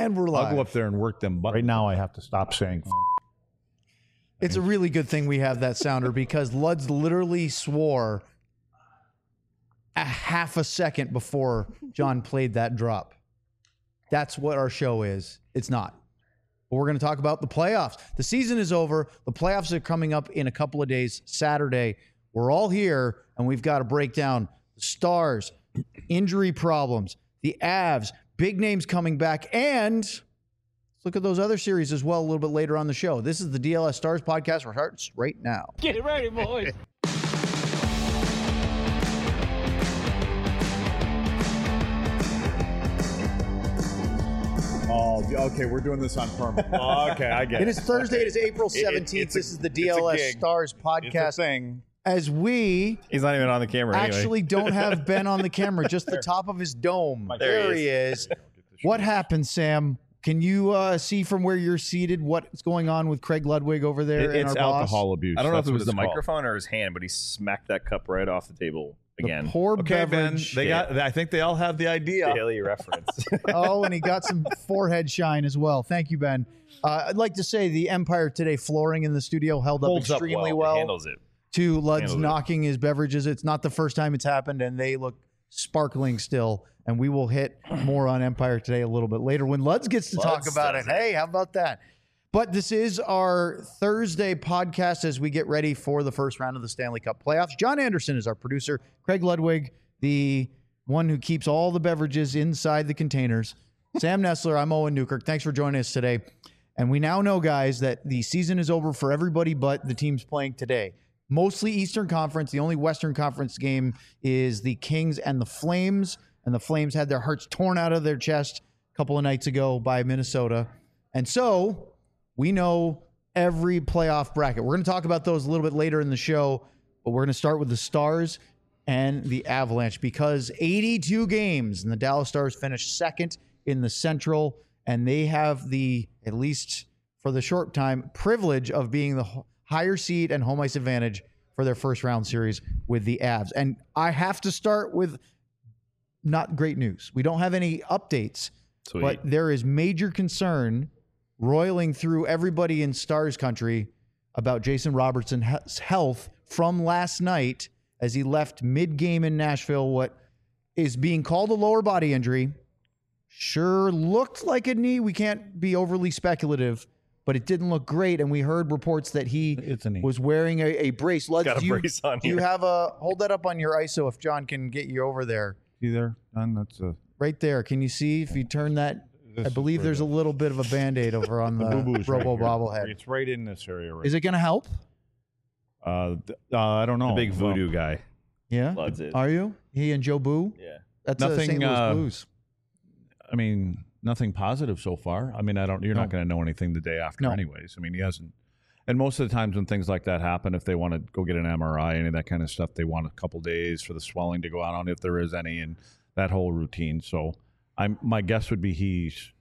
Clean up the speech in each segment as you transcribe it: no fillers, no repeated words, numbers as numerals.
And we're live. I'll go up there and work them. But Right now, I have to stop saying. It's a really good thing we have that sounder because Luds literally swore a half a second before John played that drop. That's what our show is. It's not. But we're going to talk about the playoffs. The season is over. The playoffs are coming up in a couple of days. Saturday. We're all here, and we've got to break down the Stars, injury problems, the Avs, big names coming back, and let's look at those other series as well a little bit later on the show. This is the DLS Stars podcast, which starts right now. Get ready, boys. Oh, okay, we're doing this on permanent. Okay, I get it. It is Thursday. It is April 17th. This is the DLS Stars podcast. It's a thing. As we He's not even on the camera actually don't have Ben on the camera, just the top of his dome. There There he he is. What happened, Sam? Can you see from where you're seated what's going on with Craig Ludwig over there? It's and our alcohol boss? abuse. I don't know if That's it what was the it's called. microphone or his hand, but he smacked that cup right off the table again. The poor Okay, Ben. beverage. They got. I think they all have the idea. Daily reference. Oh, and he got some forehead shine as well. Thank you, Ben. I'd like to say the Empire Today flooring in the studio held up Holds up extremely It well handles it. to Lud's handles it. knocking his beverages. It's not the first time it's happened, and they look sparkling still. And we will hit more on Empire Today a little bit later when Luds gets to talk Luds about does it. Hey, how about that? But this is our Thursday podcast as we get ready for the first round of the Stanley Cup playoffs. John Anderson is our producer. Craig Ludwig, the one who keeps all the beverages inside the containers. Sam Nessler, I'm Owen Newkirk. Thanks for joining us today. And we now know, guys, that the season is over for everybody but the teams playing today. Mostly Eastern Conference. The only Western Conference game is the Kings and the Flames. And the Flames had their hearts torn out of their chest a couple of nights ago by Minnesota. And so we know every playoff bracket. We're going to talk about those a little bit later in the show, but we're going to start with the Stars and the Avalanche because 82 games and the Dallas Stars finished second in the Central, and they have the, at least for the short time, privilege of being the higher seed and home ice advantage for their first round series with the Avs. And I have to start with not great news. We don't have any updates, Sweet. but there is major concern roiling through everybody in Stars country about Jason Robertson's health from last night as he left mid-game in Nashville. What is being called a lower body injury sure looked like a knee. We can't be overly speculative, but it didn't look great. And we heard reports that he It's a knee. was wearing a brace. Lutz, Got a do you- brace on do you here. have hold that up on your ISO if John can get you over there? See there, Don? That's a. Right there. Can you see if you turn that? I believe there's a little bit of a Band-Aid over on the boo-boo's right Robo here. bobblehead. It's right in this area. Right. Is it going to help? I don't know. The big voodoo guy. Yeah. Luds is. Are you? He and Joe Boo? Yeah. That's Nothing, St. Louis Blues. I mean, nothing positive so far. I mean, You're No. not going to know anything the day after, No. anyways. I mean, he hasn't. And most of the times when things like that happen, if they want to go get an MRI, any of that kind of stuff, they want a couple days for the swelling to go out on if there is any, and that whole routine. So, my guess would be he's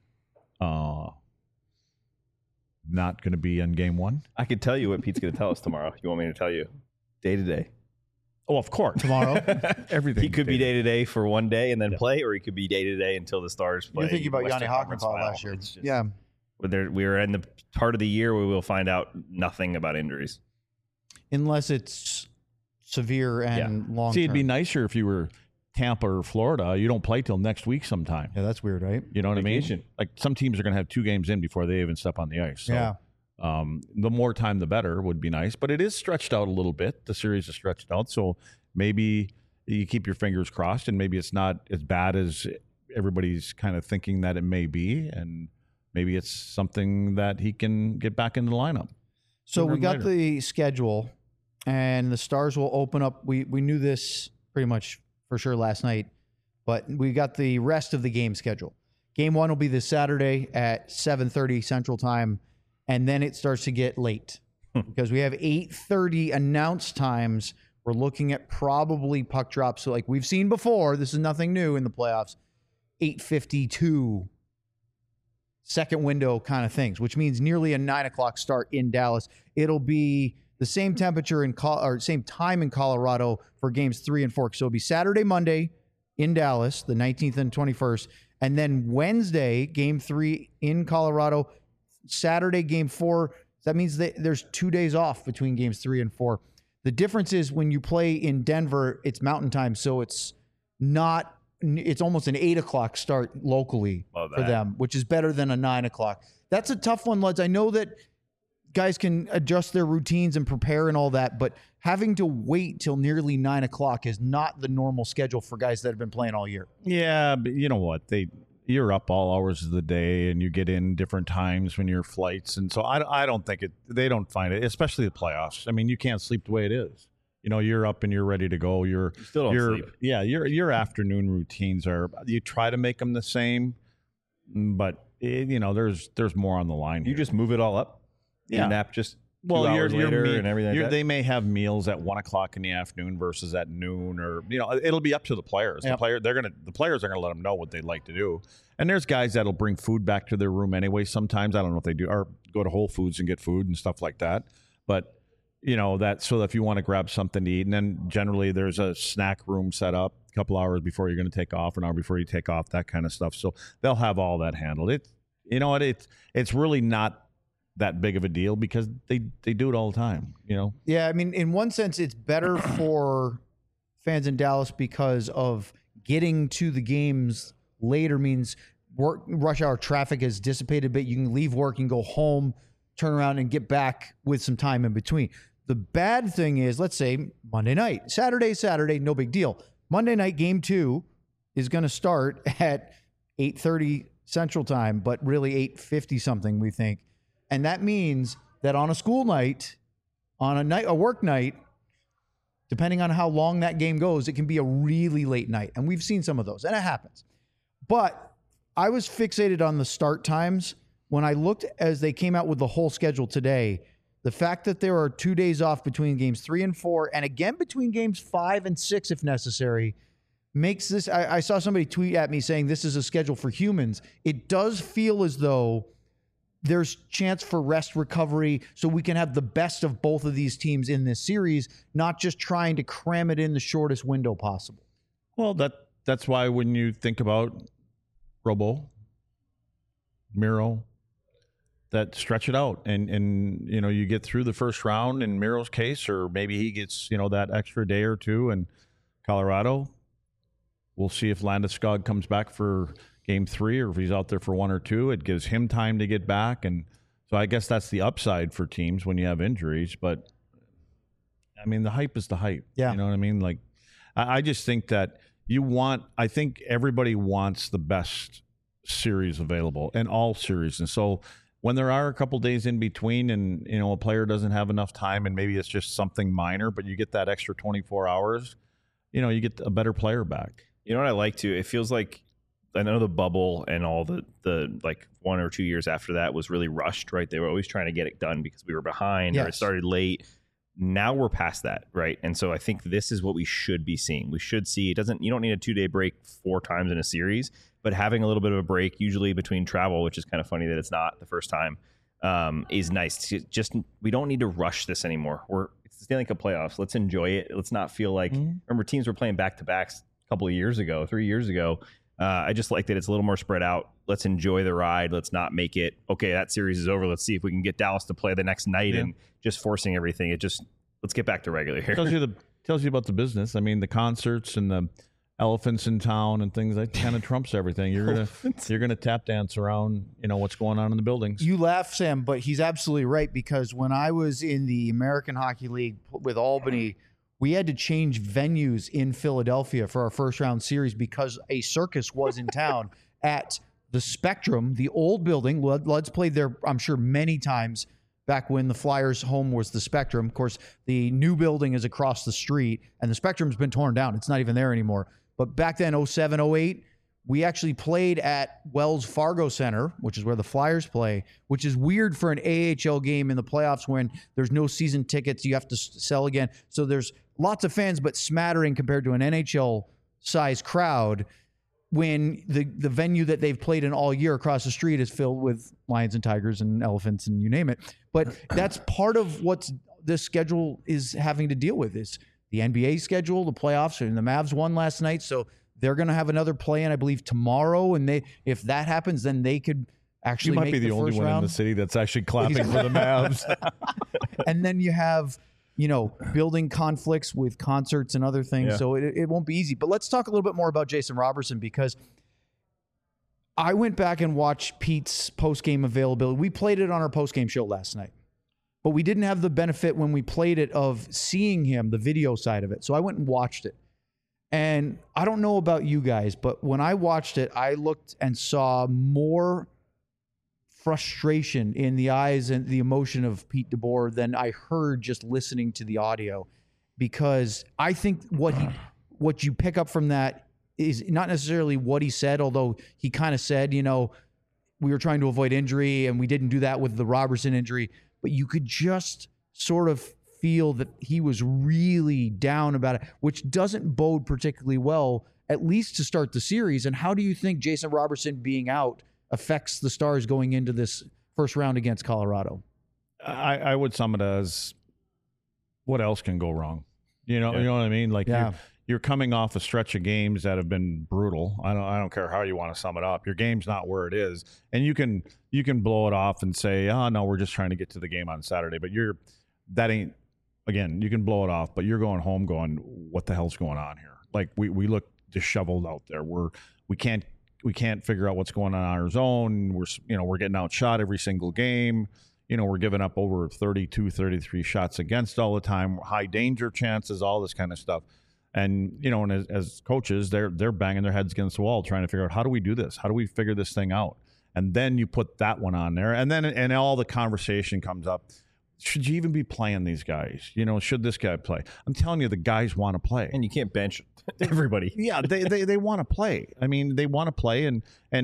not going to be in game one. I could tell you what Pete's going to tell us tomorrow. You want me to tell you? Day to day. Oh, of course. Tomorrow? Everything. He could be day to day for one day and then play, or he could be day to day until the Stars play. You're thinking about Yanni Western Conference Hakanpää Final. last year. It's just- Yeah. We are in the part of the year where we'll find out nothing about injuries. Unless it's severe and long See, it'd be term. nicer if you were Tampa or Florida. You don't play till next week sometime. Yeah, that's weird, right? You know what I Vacation. mean? Like some teams are going to have 2 games in before they even step on the ice. So, Yeah. the more time, the better would be nice. But it is stretched out a little bit. The series is stretched out. So maybe you keep your fingers crossed and maybe it's not as bad as everybody's kind of thinking that it may be. And maybe it's something that he can get back into the lineup. So Sooner we than got later. the schedule, and the Stars will open up. We knew this pretty much for sure last night, but we got the rest of the game schedule. Game 1 will be this Saturday at 7:30 Central Time, and then it starts to get late because we have 8:30 announced times. We're looking at probably puck drops. So like we've seen before, this is nothing new in the playoffs. 8:52 second window kind of things, which means nearly a 9 o'clock start in Dallas. It'll be the same temperature or same time in Colorado for games 3 and 4. So it'll be Saturday, Monday in Dallas, the 19th and 21st, And then Wednesday, game 3 in Colorado. Saturday, game 4. That means that there's 2 days off between games 3 and 4. The difference is when you play in Denver, it's mountain time. So it's almost an 8 o'clock start locally for them, which is better than a 9 o'clock. That's a tough one, Luds. I know that guys can adjust their routines and prepare and all that, but having to wait till nearly 9 o'clock is not the normal schedule for guys that have been playing all year. Yeah, but you know what? You're up all hours of the day, and you get in different times when your flights, and so I don't think they don't find it, especially the playoffs. I mean, you can't sleep the way it is. You know, you're up and you're ready to go. You still don't sleep. Yeah, your afternoon routines you try to make them the same, but there's more on the line. You just move it all up. Yeah, nap just 2 hours later and everything like that. They may have meals at 1 o'clock in the afternoon versus at noon, or it'll be up to the players. Yep. The players are gonna let them know what they'd like to do. And there's guys that'll bring food back to their room anyway. Sometimes I don't know if they do, or go to Whole Foods and get food and stuff like that. But that so if you want to grab something to eat, and then generally there's a snack room set up a couple hours before you're going to take off, an hour before you take off, that kind of stuff. So they'll have all that handled. It's really not that big of a deal because they do it all the time. Yeah, I mean, in one sense, it's better for fans in Dallas because of getting to the games later means rush hour traffic is dissipated a bit. You can leave work and go home, turn around and get back with some time in between. The bad thing is, let's say Monday night, Saturday, no big deal. Monday night, game 2 is going to start at 8:30 Central Time, but really 8:50 something, we think. And that means that on a school night, on a work night, depending on how long that game goes, it can be a really late night. And we've seen some of those, and it happens. But I was fixated on the start times. When I looked as they came out with the whole schedule today, the fact that there are 2 days off between games 3 and 4, and again between games 5 and 6 if necessary, makes this, I saw somebody tweet at me saying this is a schedule for humans. It does feel as though there's chance for rest recovery so we can have the best of both of these teams in this series, not just trying to cram it in the shortest window possible. Well, that's why when you think about Robo, Miro, that stretch it out and you get through the first round in Miro's case, or maybe he gets that extra day or two in Colorado. We'll see if Landeskog comes back for game 3 or if he's out there for 1 or 2. It gives him time to get back, and so I guess that's the upside for teams when you have injuries. But I mean, the hype is the hype. Yeah. You know what I mean? Like, I just think that I think everybody wants the best series available in all series, and so when there are a couple days in between and a player doesn't have enough time and maybe it's just something minor, but you get that extra 24 hours, you get a better player back. You know what I like too? It feels like, I know the bubble and all the like 1 or 2 years after that was really rushed, right? They were always trying to get it done because we were behind or it started late. Now we're past that, right? And so I think this is what we should be seeing. We should see you don't need a 2-day break 4 times in a series, but having a little bit of a break, usually between travel, which is kind of funny that it's not the first time, is nice. We don't need to rush this anymore. It's the Stanley Cup playoffs. Let's enjoy it. Let's not feel like, remember teams were playing back-to-backs a couple of years ago, 3 years ago. I just like that it's a little more spread out. Let's enjoy the ride. Let's not make it, okay, that series is over. Let's see if we can get Dallas to play the next night and just forcing everything. Let's get back to regular here. Tells you about the business. I mean, the concerts and the elephants in town and things that kind of trumps everything. You're gonna tap dance around, what's going on in the buildings. You laugh, Sam, but he's absolutely right, because when I was in the American Hockey League with Albany, we had to change venues in Philadelphia for our first round series because a circus was in town at the Spectrum, the old building. Lud's played there, I'm sure, many times back when the Flyers' home was the Spectrum. Of course, the new building is across the street, and the Spectrum's been torn down. It's not even there anymore. But back then, 07, 08, we actually played at Wells Fargo Center, which is where the Flyers play, which is weird for an AHL game in the playoffs when there's no season tickets. You have to sell again. So there's lots of fans, but smattering compared to an NHL-sized crowd when the venue that they've played in all year across the street is filled with lions and tigers and elephants and you name it. But that's part of what this schedule is having to deal with is the NBA schedule, the playoffs, and the Mavs won last night. So They're going to have another play-in, I believe, tomorrow, and if that happens, then they could actually You might make be the only one in the city that's actually clapping for the Mavs. And then you have, building conflicts with concerts and other things. Yeah. So it won't be easy. But let's talk a little bit more about Jason Robertson, because I went back and watched Pete's post-game availability. We played it on our post-game show last night, but we didn't have the benefit when we played it of seeing him, the video side of it. So I went and watched it. And I don't know about you guys, but when I watched it, I looked and saw more frustration in the eyes and the emotion of Pete DeBoer than I heard just listening to the audio, because I think what you pick up from that is not necessarily what he said, although he kind of said, we were trying to avoid injury and we didn't do that with the Robertson injury, but you could just sort of feel that he was really down about it, which doesn't bode particularly well, at least to start the series. And how do you think Jason Robertson being out affects the Stars going into this first round against Colorado? I would sum it as, what else can go wrong? You know what I mean? Like, you're coming off a stretch of games that have been brutal. I don't care how you want to sum it up. Your game's not where it is, and you can blow it off and say, "Oh no, we're just trying to get to the game on Saturday." But that ain't. Again, you can blow it off, but you're going home going, "What the hell's going on here?" Like we look disheveled out there. We can't figure out what's going on our zone. We're getting outshot every single game. We're giving up over 32, 33 shots against all the time, high danger chances, all this kind of stuff. And, and as coaches, they're banging their heads against the wall trying to figure out, how do we do this? How do we figure this thing out? And then you put that one on there. And all the conversation comes up. Should you even be playing these guys? Should this guy play? I'm telling you, the guys want to play. And you can't bench everybody. Yeah, they want to play. I mean, they want to play. And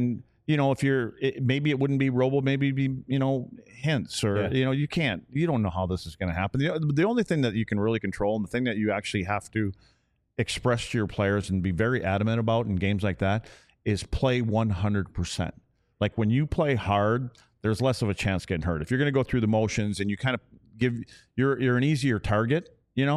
if maybe it wouldn't be Robo, maybe it'd be, Hintz, or, you don't know how this is going to happen. The only thing that you can really control, and the thing that you actually have to express to your players and be very adamant about in games like that, is play 100%. Like, when you play hard, there's less of a chance getting hurt. If you're going to go through the motions and you kind of you're an easier target,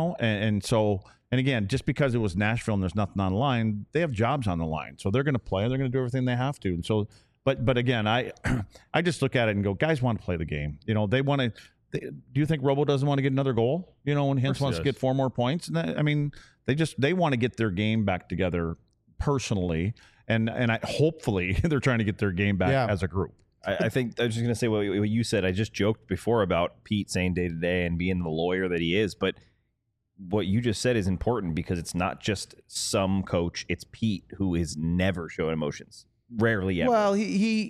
and so, and again, just because it was Nashville and there's nothing on the line, they have jobs on the line. So they're going to play, they're going to do everything they have to. And so, but again, I just look at it and go, guys want to play the game. They want to. Do you think Robo doesn't want to get another goal? When Hintz wants to get 4 more points, and they want to get their game back together personally, and hopefully they're trying to get their game back as a group. I think I was just going to say what you said. I just joked before about Pete saying day to day and being the lawyer that he is, but what you just said is important, because it's not just some coach. It's Pete, who is never showing emotions, rarely ever. Well,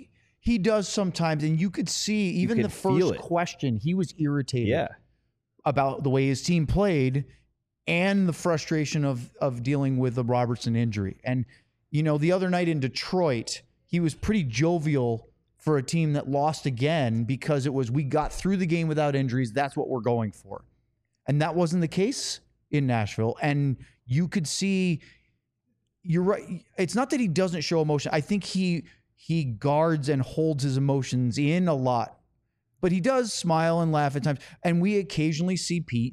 he does sometimes, and you could see even the first question, he was irritated about the way his team played and the frustration of dealing with the Robertson injury. And, the other night in Detroit, he was pretty jovial for a team that lost again, because it was, we got through the game without injuries. That's what we're going for. And that wasn't the case in Nashville. And you could see, you're right. It's not that he doesn't show emotion. I think he guards and holds his emotions in a lot, but he does smile and laugh at times. And we occasionally see Pete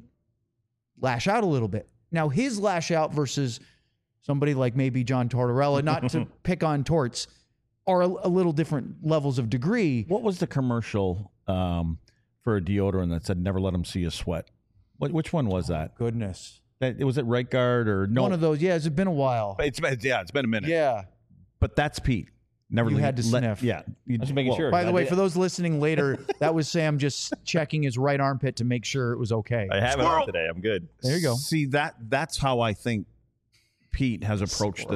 lash out a little bit. Now, his lash out versus somebody like maybe John Tortorella, not to pick on Torts, are a little different levels of degree. What was the commercial for a deodorant that said "Never let them see you sweat"? Which one was that? Goodness, was it Right Guard or no? One of those. Yeah, it's been a while. It's been a minute. Yeah, but that's Pete. Never had to sniff. Yeah, just making sure. By the way, for those listening later, that was Sam just checking his right armpit to make sure it was okay. I have it on today. I'm good. There you go. See, that's how I think Pete has approached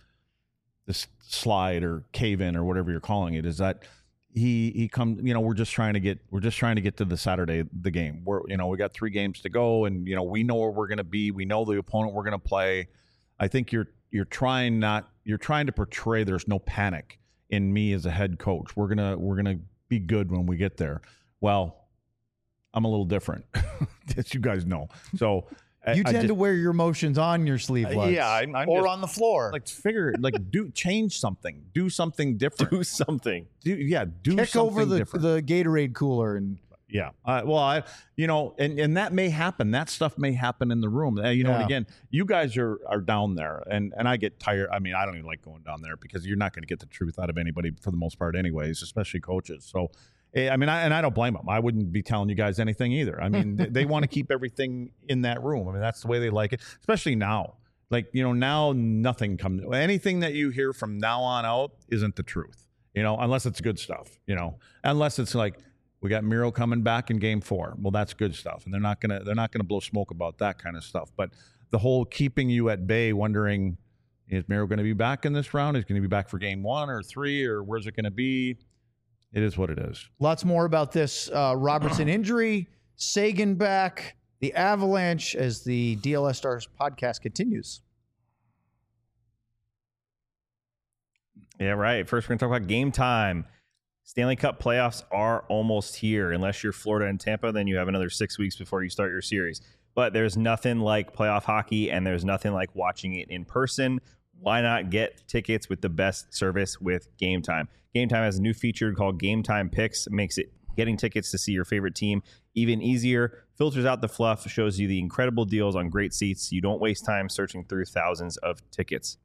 this slide or cave in or whatever you're calling it, is that he comes, we're just trying to get to the Saturday, the game. We got 3 games to go, and we know where we're going to be. We know the opponent we're going to play. I think you're trying to portray there's no panic in me as a head coach. We're going to be good when we get there. Well, I'm a little different, as you guys know. So you tend to wear your emotions on your sleeve, yeah, I'm or just, on the floor. Change something, do something different, do something. Do Kick something over the different. the Gatorade cooler and Yeah. And that may happen. That stuff may happen in the room. And again, you guys are down there, and I get tired. I mean, I don't even like going down there because you're not going to get the truth out of anybody for the most part, anyways, especially coaches. So, I mean, I don't blame them. I wouldn't be telling you guys anything either. I mean, they want to keep everything in that room. I mean, that's the way they like it, especially now. Like, now nothing comes. Anything that you hear from now on out isn't the truth, unless it's good stuff, unless it's like, we got Miro coming back in Game 4. Well, that's good stuff, and they're not gonna blow smoke about that kind of stuff. But the whole keeping you at bay, wondering, is Miro going to be back in this round? Is he going to be back for Game 1 or 3, or where's it going to be? It is what it is. Lots more about this Robertson injury, Sagan back, the Avalanche, as the DLS Stars podcast continues. Yeah, right. First, we're going to talk about Game Time. Stanley Cup playoffs are almost here. Unless you're Florida and Tampa, then you have another 6 weeks before you start your series. But there's nothing like playoff hockey, and there's nothing like watching it in person. Why not get tickets with the best service with Game Time? Game Time has a new feature called Game Time Picks. It makes it getting tickets to see your favorite team even easier. Filters out the fluff, shows you the incredible deals on great seats. You don't waste time searching through thousands of tickets.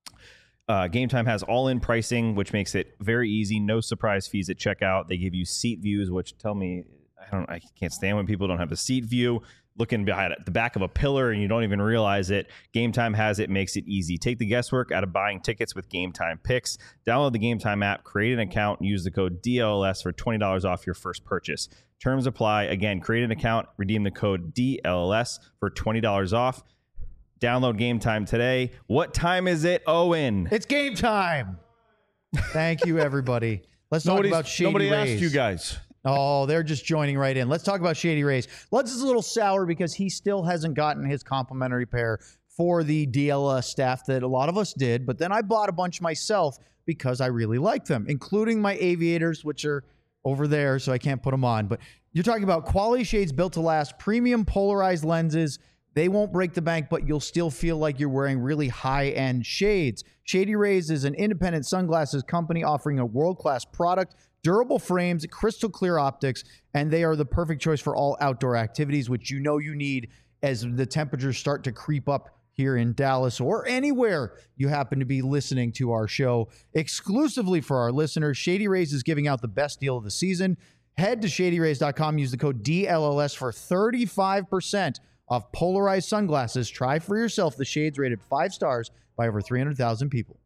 Game Time has all-in pricing, which makes it very easy. No surprise fees at checkout. They give you seat views, which tell me I can't stand when people don't have the seat view. Looking behind the back of a pillar and you don't even realize it. Game Time has it, makes it easy. Take the guesswork out of buying tickets with Game Time Picks. Download the Game Time app, create an account, and use the code DLS for $20 off your first purchase. Terms apply. Again, create an account, redeem the code DLS for $20 off. Download Game Time today. What time is it, Owen? It's game time. Thank you, everybody. Let's talk about Shady Rays. Nobody asked you guys. Oh, they're just joining right in. Let's talk about Shady Rays. Ludz is a little sour because he still hasn't gotten his complimentary pair for the DLS staff that a lot of us did. But then I bought a bunch myself because I really like them, including my aviators, which are over there, so I can't put them on. But you're talking about quality shades built to last, premium polarized lenses. They won't break the bank, but you'll still feel like you're wearing really high-end shades. Shady Rays is an independent sunglasses company offering a world-class product, durable frames, crystal clear optics, and they are the perfect choice for all outdoor activities, which you need as the temperatures start to creep up here in Dallas or anywhere you happen to be listening to our show. Exclusively for our listeners, Shady Rays is giving out the best deal of the season. Head to shadyrays.com, use the code DLLS for 35% off polarized sunglasses. Try for yourself the shades rated 5 stars by over 300,000 people.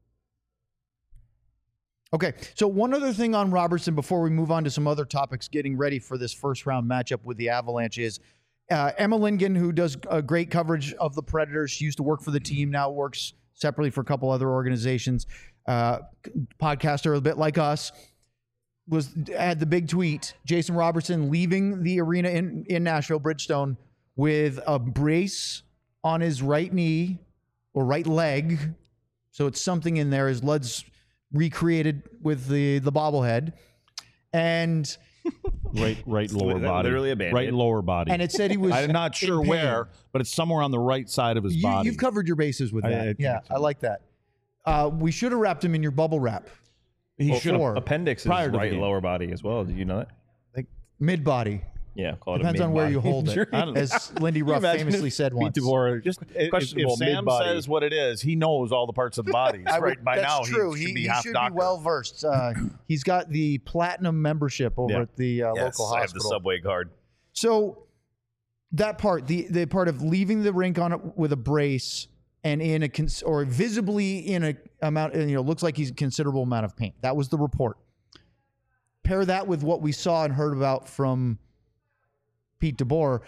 Okay, so one other thing on Robertson before we move on to some other topics getting ready for this first round matchup with the Avalanche is Emma Lingen, who does great coverage of the Predators. She used to work for the team, now works separately for a couple other organizations. Podcaster a bit like us, had the big tweet. Jason Robertson leaving the arena in Nashville, Bridgestone, with a brace on his right knee or right leg. So it's something in there, as Ludz recreated with the bobblehead. And right lower body. Literally a Band-Aid. Right lower body. And it said he was I'm not sure where, but it's somewhere on the right side of his body. You've covered your bases with that. I like that. We should have wrapped him in your bubble wrap. He should have. Appendix is right lower body as well. Did you know that? Like mid-body. Yeah, depends on where you hold it. As Lindy Ruff famously said once. Just if Sam says what it is, he knows all the parts of the body. Right by now, true. He should be he should be well versed. He's got the platinum membership over at the local hospital. I have the Subway card. So that part, the part of leaving the rink on it with a brace and in or visibly in a amount, looks like he's a considerable amount of pain. That was the report. Pair that with what we saw and heard about from Pete DeBoer,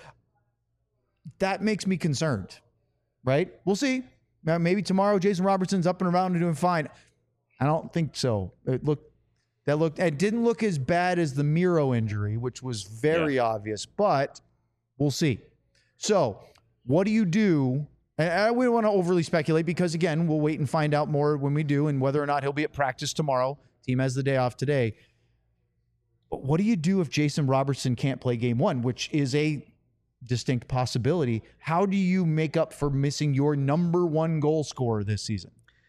that makes me concerned, right? We'll see. Maybe tomorrow Jason Robertson's up and around and doing fine. I don't think so. It didn't look as bad as the Miro injury, which was very obvious, but we'll see. So what do you do? And we don't want to overly speculate because, again, we'll wait and find out more when we do and whether or not he'll be at practice tomorrow. Team has the day off today. But what do you do if Jason Robertson can't play game 1, which is a distinct possibility? How do you make up for missing your number 1 goal scorer this season?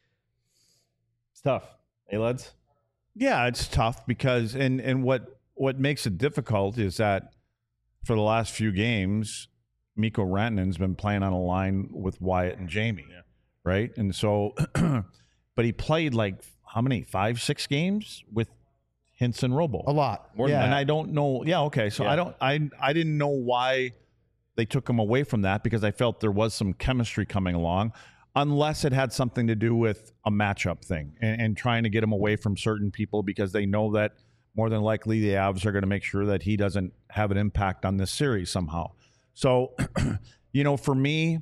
It's tough. Hey, Ludz? Yeah, it's tough because and what makes it difficult is that for the last few games, Mikko Rantanen's been playing on a line with Wyatt and Jamie, right? And so, but he played like how many? 5-6 games with Hintz and Robo. A lot. More than that. And I don't know. Yeah, okay. So I didn't know why they took him away from that, because I felt there was some chemistry coming along, unless it had something to do with a matchup thing and trying to get him away from certain people, because they know that more than likely the Avs are going to make sure that he doesn't have an impact on this series somehow. So, for me,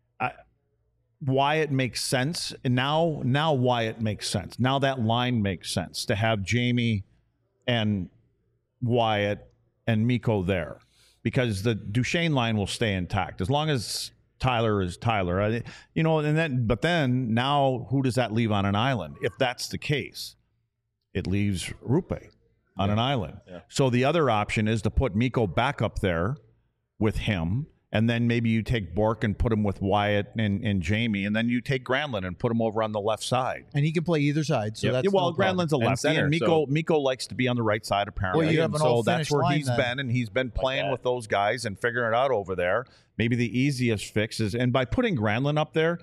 Wyatt makes sense. And now Wyatt makes sense. Now that line makes sense to have Jamie and Wyatt and Mikko there, because the Duchesne line will stay intact as long as Tyler is Tyler. But then now who does that leave on an island? If that's the case, it leaves Rupe on an island. Yeah. So the other option is to put Mikko back up there with him, and then maybe you take Bork and put him with Wyatt and Jamie, and then you take Granlund and put him over on the left side. And he can play either side. So that's Granlund's a left center. And Mikko likes to be on the right side, apparently. Well, you have an that's where he's been, and he's been playing with those guys and figuring it out over there. Maybe the easiest fix is, and by putting Granlund up there,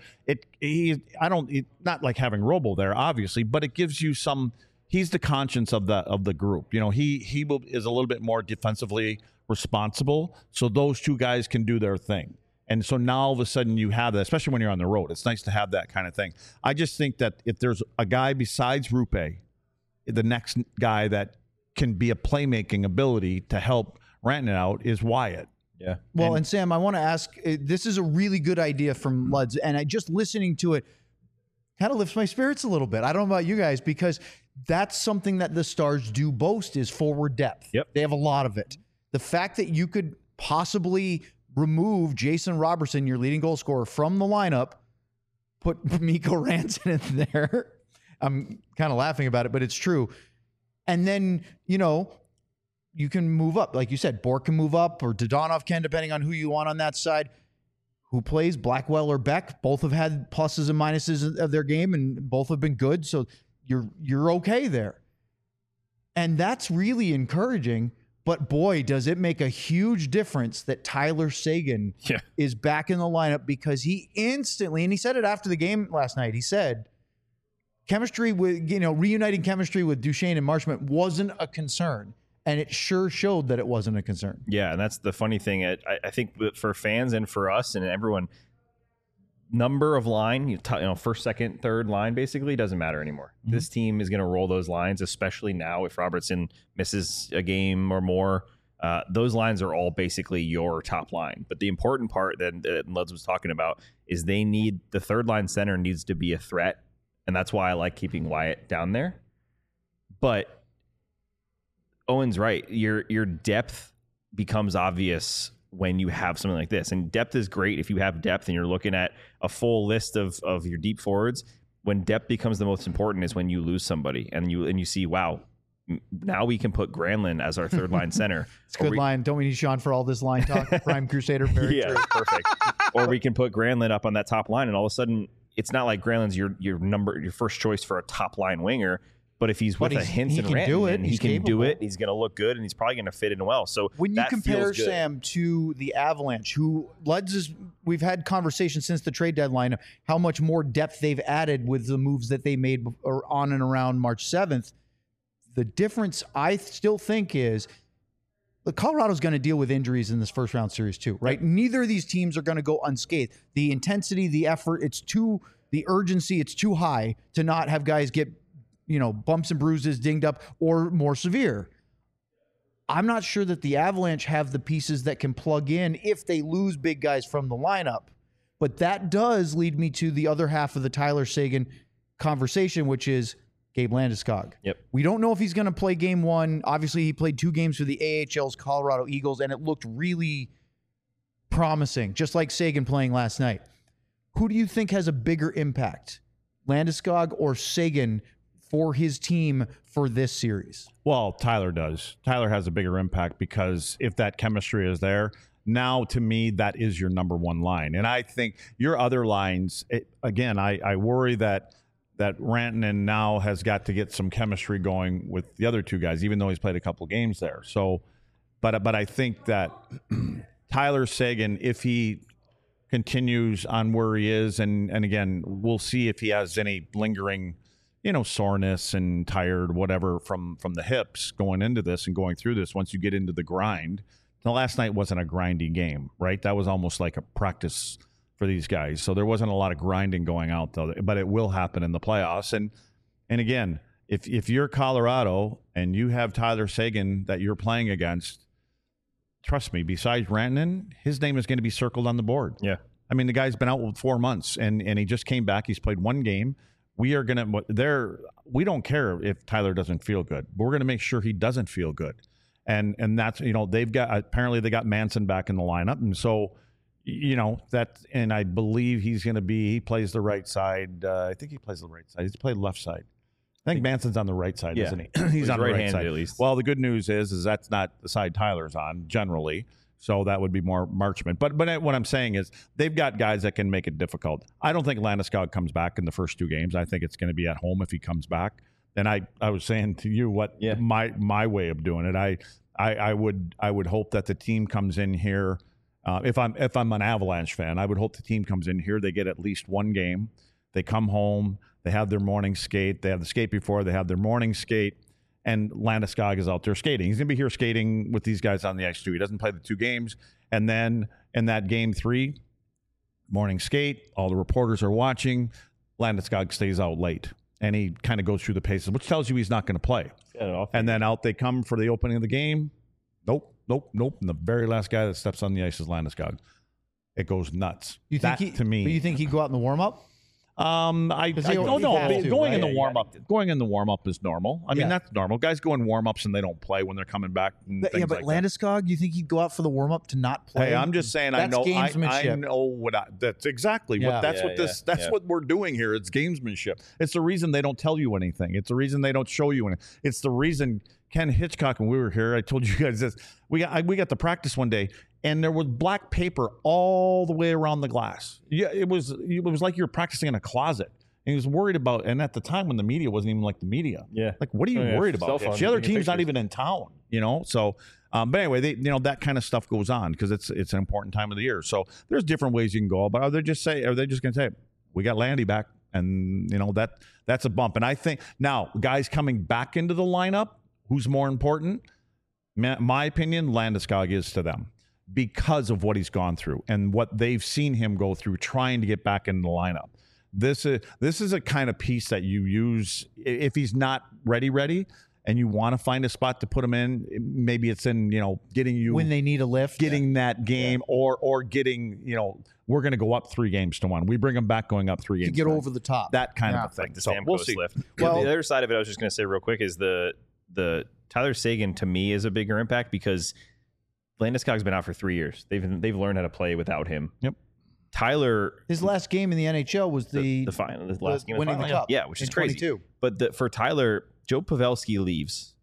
not like having Robo there, obviously, but it gives you some. He's the conscience of the group. He is a little bit more defensively responsible, so those two guys can do their thing. And so now all of a sudden you have that, especially when you're on the road. It's nice to have that kind of thing. I just think that if there's a guy besides Rupe, the next guy that can be a playmaking ability to help Rantanen out is Wyatt. Yeah. Well, and Sam, I want to ask, this is a really good idea from Luds, and I just listening to it kind of lifts my spirits a little bit. I don't know about you guys, because that's something that the Stars do boast is forward depth. Yep. They have a lot of it. The fact that you could possibly remove Jason Robertson, your leading goal scorer, from the lineup, put Mikko Rantanen in there. I'm kind of laughing about it, but it's true. And then, you can move up. Like you said, Bork can move up, or Dodonov can, depending on who you want on that side. Who plays, Blackwell or Beck? Both have had pluses and minuses of their game, and both have been good. So you're okay there. And that's really encouraging. But boy, does it make a huge difference that Tyler Seguin is back in the lineup, because he instantly, and he said it after the game last night, he said chemistry with, reuniting chemistry with Duchesne and Marchment wasn't a concern. And it sure showed that it wasn't a concern. Yeah, and that's the funny thing. I think for fans and for us and everyone, number of line, first, second, third line basically doesn't matter anymore. Mm-hmm. This team is going to roll those lines, especially now if Robertson misses a game or more. Those lines are all basically your top line. But the important part that Luds was talking about is the third line center needs to be a threat. And that's why I like keeping Wyatt down there. But Owen's right. Your depth becomes obvious when you have something like this. And depth is great if you have depth and you're looking at a full list of your deep forwards. When depth becomes the most important is when you lose somebody and you see, wow, now we can put Granlund as our third line center. It's a good line. Don't we need Sean for all this line talk? Prime Crusader. Very true. Perfect. Or we can put Granlund up on that top line, and all of a sudden it's not like Granlund's your first choice for a top line winger. But if he's with a Hintz and Rantanen, he can do it. He's going to look good, and he's probably going to fit in well. So when you compare Sam to the Avalanche, we've had conversations since the trade deadline of how much more depth they've added with the moves that they made on and around March 7th. The difference, I still think, is Colorado's going to deal with injuries in this first round series too, right? Yep. Neither of these teams are going to go unscathed. The intensity, the effort, the urgency, it's too high to not have guys get bumps and bruises, dinged up, or more severe. I'm not sure that the Avalanche have the pieces that can plug in if they lose big guys from the lineup. But that does lead me to the other half of the Tyler Seguin conversation, which is Gabe Landeskog. Yep. We don't know if he's going to play game one. Obviously, he played 2 games for the AHL's Colorado Eagles, and it looked really promising, just like Seguin playing last night. Who do you think has a bigger impact, Landeskog or Seguin, for his team for this series? Well, Tyler does. Tyler has a bigger impact because if that chemistry is there, now to me, that is your number one line. And I think your other lines, I worry that Rantanen now has got to get some chemistry going with the other two guys, even though he's played a couple games there. So But I think that Tyler Seguin, if he continues on where he is, and again, we'll see if he has any lingering, soreness and tired, whatever, from the hips going into this and going through this. Once you get into the grind, the last night wasn't a grindy game, right? That was almost like a practice for these guys. So there wasn't a lot of grinding going out, though. But it will happen in the playoffs. And again, if you're Colorado and you have Tyler Seguin that you're playing against, trust me, besides Rantanen, his name is going to be circled on the board. Yeah. I mean, the guy's been out with 4 months, and he just came back. He's played 1 game. We don't care if Tyler doesn't feel good, but we're going to make sure he doesn't feel good. And that's, apparently they got Manson back in the lineup. And so, and I believe he plays the right side. I think he plays the right side. He's played left side. I think Manson's on the right side, isn't he? He's on the right side. At least. Well, the good news is that's not the side Tyler's on generally. So that would be more Marchment. But what I'm saying is they've got guys that can make it difficult. I don't think Landeskog comes back in the first 2 games. I think it's going to be at home if he comes back. And I was saying to you my way of doing it. I would hope that the team comes in here. If I'm an Avalanche fan, I would hope the team comes in here. They get at least 1 game. They come home. They have their morning skate. They have the skate before. They have their morning skate. And Landeskog is out there skating. He's going to be here skating with these guys on the ice too. He doesn't play the 2 games. And then in that game 3, morning skate, all the reporters are watching. Landeskog stays out late. And he kind of goes through the paces, which tells you he's not going to play. And then out they come for the opening of the game. Nope. And the very last guy that steps on the ice is Landeskog. It goes nuts. To me. But you think he'd go out in the warm-up? I don't know. Going in the warm-up is normal. I mean, that's normal. Guys go in warm-ups and they don't play when they're coming back. But Landeskog, you think he'd go out for the warm-up to not play? Hey, I'm just saying. That's gamesmanship. I know what. That's exactly what. That's what we're doing here. It's gamesmanship. It's the reason they don't tell you anything. It's the reason they don't show you anything. It's the reason Ken Hitchcock, when we were here, I told you guys this. We got to practice one day, and there was black paper all the way around the glass. Yeah, it was like you were practicing in a closet. And he was worried about, and at the time when the media wasn't even like the media. Yeah. Like, what are you worried about? The other team's not even in town, So, but anyway, that kind of stuff goes on because it's an important time of the year. So there's different ways you can go. But are they just going to say, we got Landy back, and that's a bump. And I think now guys coming back into the lineup, who's more important? My opinion, Landeskog is to them because of what he's gone through and what they've seen him go through trying to get back in the lineup. This is a kind of piece that you use if he's not ready, and you want to find a spot to put him in. Maybe it's in getting you when they need a lift, getting that game, or getting we're going to go up 3 games to 1. We bring them back going up 3 games to get over the top. That kind of a thing. Like the Stamkos lift. Well, the other side of it, I was just going to say real quick, is the Tyler Seguin to me is a bigger impact because Landeskog's been out for 3 years. They've learned how to play without him. Yep. Tyler, his last game in the NHL was the final, the last game winning of the the cup. Yeah, which is crazy. 22. But for Tyler, Joe Pavelski leaves.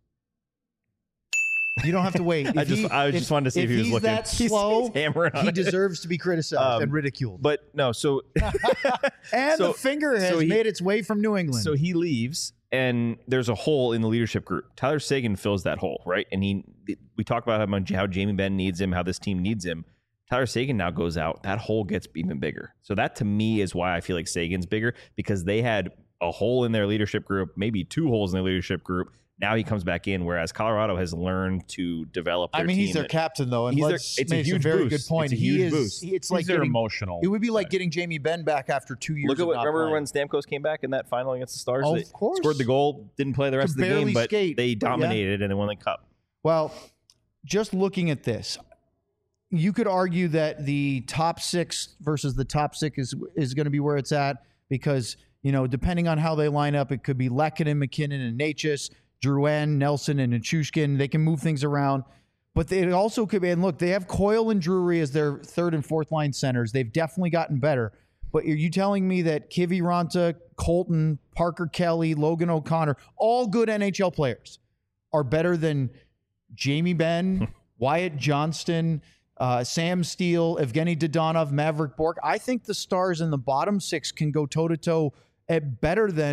You don't have to wait. I just wanted to see if he was looking. That slow, he deserves to be criticized and ridiculed. But no, so and the finger has made its way from New England. So he leaves, and there's a hole in the leadership group. Tyler Seguin fills that hole, right? And we talk about how Jamie Benn needs him, how this team needs him. Tyler Seguin now goes out. That hole gets even bigger. So that to me is why I feel like Sagan's bigger, because they had a hole in their leadership group, maybe 2 holes in their leadership group. Now he comes back in, whereas Colorado has learned to develop their team. He's their captain, though, and it's a huge very boost. good point. It's a huge boost. It's like they're emotional. It would be like getting Jamie Benn back after 2 years. Look at remember when Stamkos came back in that final against the Stars? Oh, of course. Scored the goal, didn't play the rest of the game, but they dominated and they won the cup. Well, just looking at this, you could argue that the top 6 versus the top 6 is going to be where it's at because, depending on how they line up, it could be Lehkonen, McKinnon, and Necas, Drouin, Nelson, and Nichushkin. They can move things around. But it also could be, and look, they have Coyle and Drury as their 3rd and 4th line centers. They've definitely gotten better. But are you telling me that Kiviranta, Colton, Parker Kelly, Logan O'Connor, all good NHL players, are better than Jamie Benn, Wyatt Johnston, Sam Steele, Evgeny Dodonov, Maverick Bourque? I think the Stars in the bottom 6 can go toe-to-toe at better than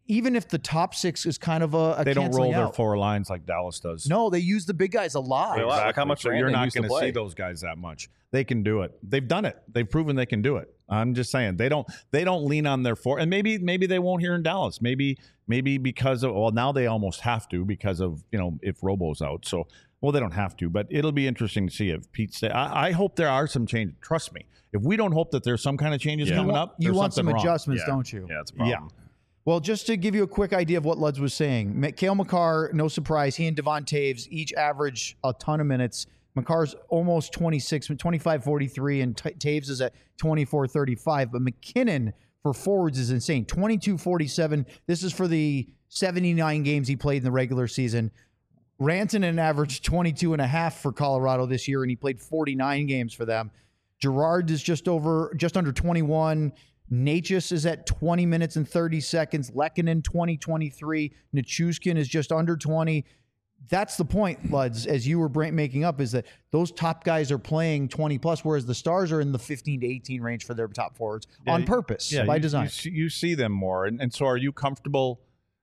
even if the top 6 is kind of a they don't roll canceling their out. 4 lines like Dallas does. No, they use the big guys a lot. Well, Look how much so you're Rantanen not used to going to play. see those guys that much. They can do it. They've done it. They've proven they can do it. I'm just saying they don't lean on their 4, and maybe they won't here in Dallas. Maybe because of, well, now they almost have to because of, if Robo's out. So, well, they don't have to, but it'll be interesting to see if Pete stay. I hope there are some changes. Trust me. If we don't hope that there's some kind of changes coming up, you want some wrong. adjustments, don't you? Yeah, that's a problem. Yeah. Well, just to give you a quick idea of what Luds was saying, Cale Makar, no surprise, he and Devon Taves each average a ton of minutes. Makar's almost 26, 25-43, and Taves is at 24-35. But McKinnon for forwards is insane, 22-47. This is for the 79 games he played in the regular season. Rantanen averaged 22.5 for Colorado this year, and he played 49 games for them. Girard is just under 21. Natchez is at 20 minutes and 30 seconds. Lehkonen, 20-23. Nichushkin is just under 20. That's the point, Luds, as you were making up, is that those top guys are playing 20 plus, whereas the Stars are in the 15 to 18 range for their top forwards on purpose, by design. You see them more. And so are you comfortable?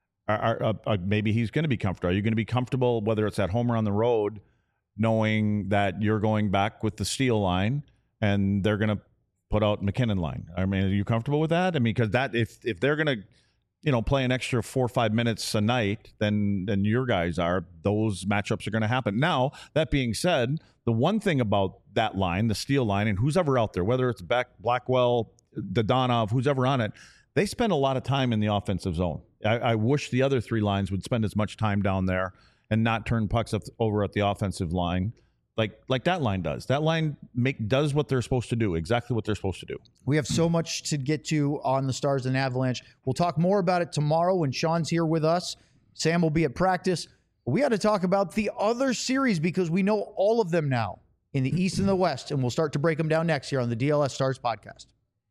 Maybe he's going to be comfortable. Are you going to be comfortable, whether it's at home or on the road, knowing that you're going back with the Steel line and they're going to put out McKinnon line? I mean, are you comfortable with that? I mean, because that if they're going to play an extra 4 or 5 minutes a night, then your guys are. Those matchups are going to happen. Now, that being said, the one thing about that line, the Steel line, and who's ever out there, whether it's Beck, Blackwell, Dodonov, who's ever on it, they spend a lot of time in the offensive zone. I wish the other 3 lines would spend as much time down there and not turn pucks over at the offensive line like that line does. That line does what they're supposed to do, exactly what they're supposed to do. We have so much to get to on the Stars and Avalanche. We'll talk more about it tomorrow when Sean's here with us. Sam will be at practice. We got to talk about the other series because we know all of them now in the East and the West, and we'll start to break them down next year on the DLS Stars podcast.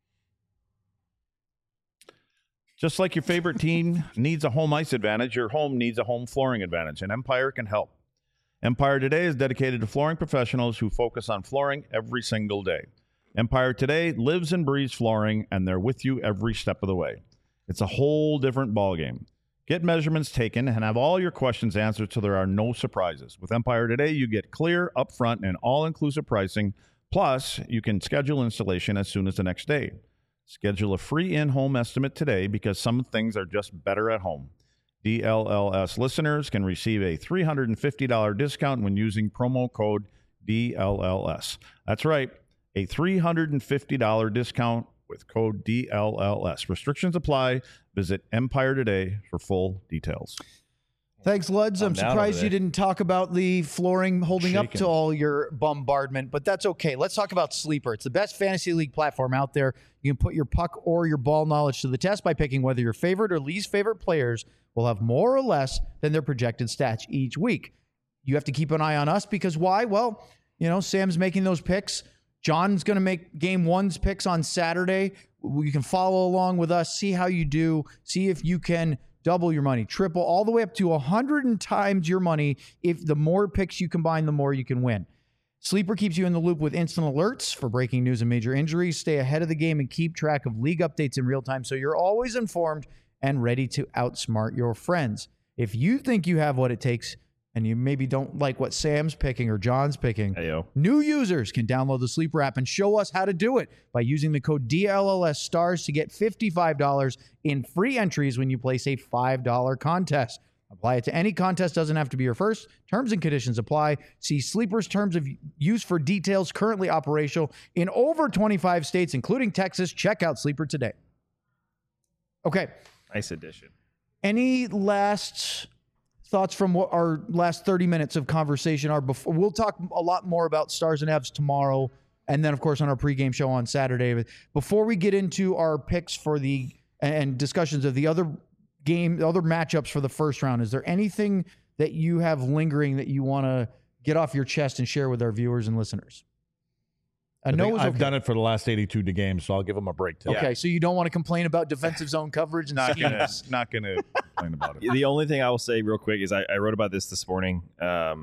Just like your favorite team needs a home ice advantage, your home needs a home flooring advantage, and Empire can help. Empire Today is dedicated to flooring professionals who focus on flooring every single day. Empire Today lives and breathes flooring, and they're with you every step of the way. It's a whole different ballgame. Get measurements taken and have all your questions answered so there are no surprises. With Empire Today, you get clear, upfront, and all-inclusive pricing. Plus, you can schedule installation as soon as the next day. Schedule a free in-home estimate today because some things are just better at home. DLLS listeners can receive a $350 discount when using promo code DLLS. That's right, a $350 discount with code DLLS. Restrictions apply. Visit Empire Today for full details. Thanks, Luds. I'm surprised you didn't talk about the flooring holding up to all your bombardment, but that's okay. Let's talk about Sleeper. It's the best fantasy league platform out there. You can put your puck or your ball knowledge to the test by picking whether your favorite or least favorite players will have more or less than their projected stats each week. You have to keep an eye on us because why? Well, Sam's making those picks. John's going to make Game 1's picks on Saturday. You can follow along with us, see how you do, see if you can double your money, triple, all the way up to 100 times your money. If the more picks you combine, the more you can win. Sleeper keeps you in the loop with instant alerts for breaking news and major injuries. Stay ahead of the game and keep track of league updates in real time so you're always informed and ready to outsmart your friends. If you think you have what it takes and you maybe don't like what Sam's picking or John's picking, new users can download the Sleeper app and show us how to do it by using the code DLLS Stars to get $55 in free entries when you place a $5 contest. Apply it to any contest, doesn't have to be your first. Terms and conditions apply. See Sleeper's terms of use for details, currently operational in over 25 states, including Texas. Check out Sleeper today. Okay. Nice addition. Any last thoughts from what our last 30 minutes of conversation are? Before we'll talk a lot more about Stars and Avs tomorrow, and then, of course, on our pregame show on Saturday. But before we get into our picks for and discussions of the other matchups for the first round, is there anything that you have lingering that you want to get off your chest and share with our viewers and listeners? I've done it for the last 82 games, so I'll give them a break today. Okay, so you don't want to complain about defensive zone coverage? Not gonna complain about it. The only thing I will say real quick is I wrote about this morning. I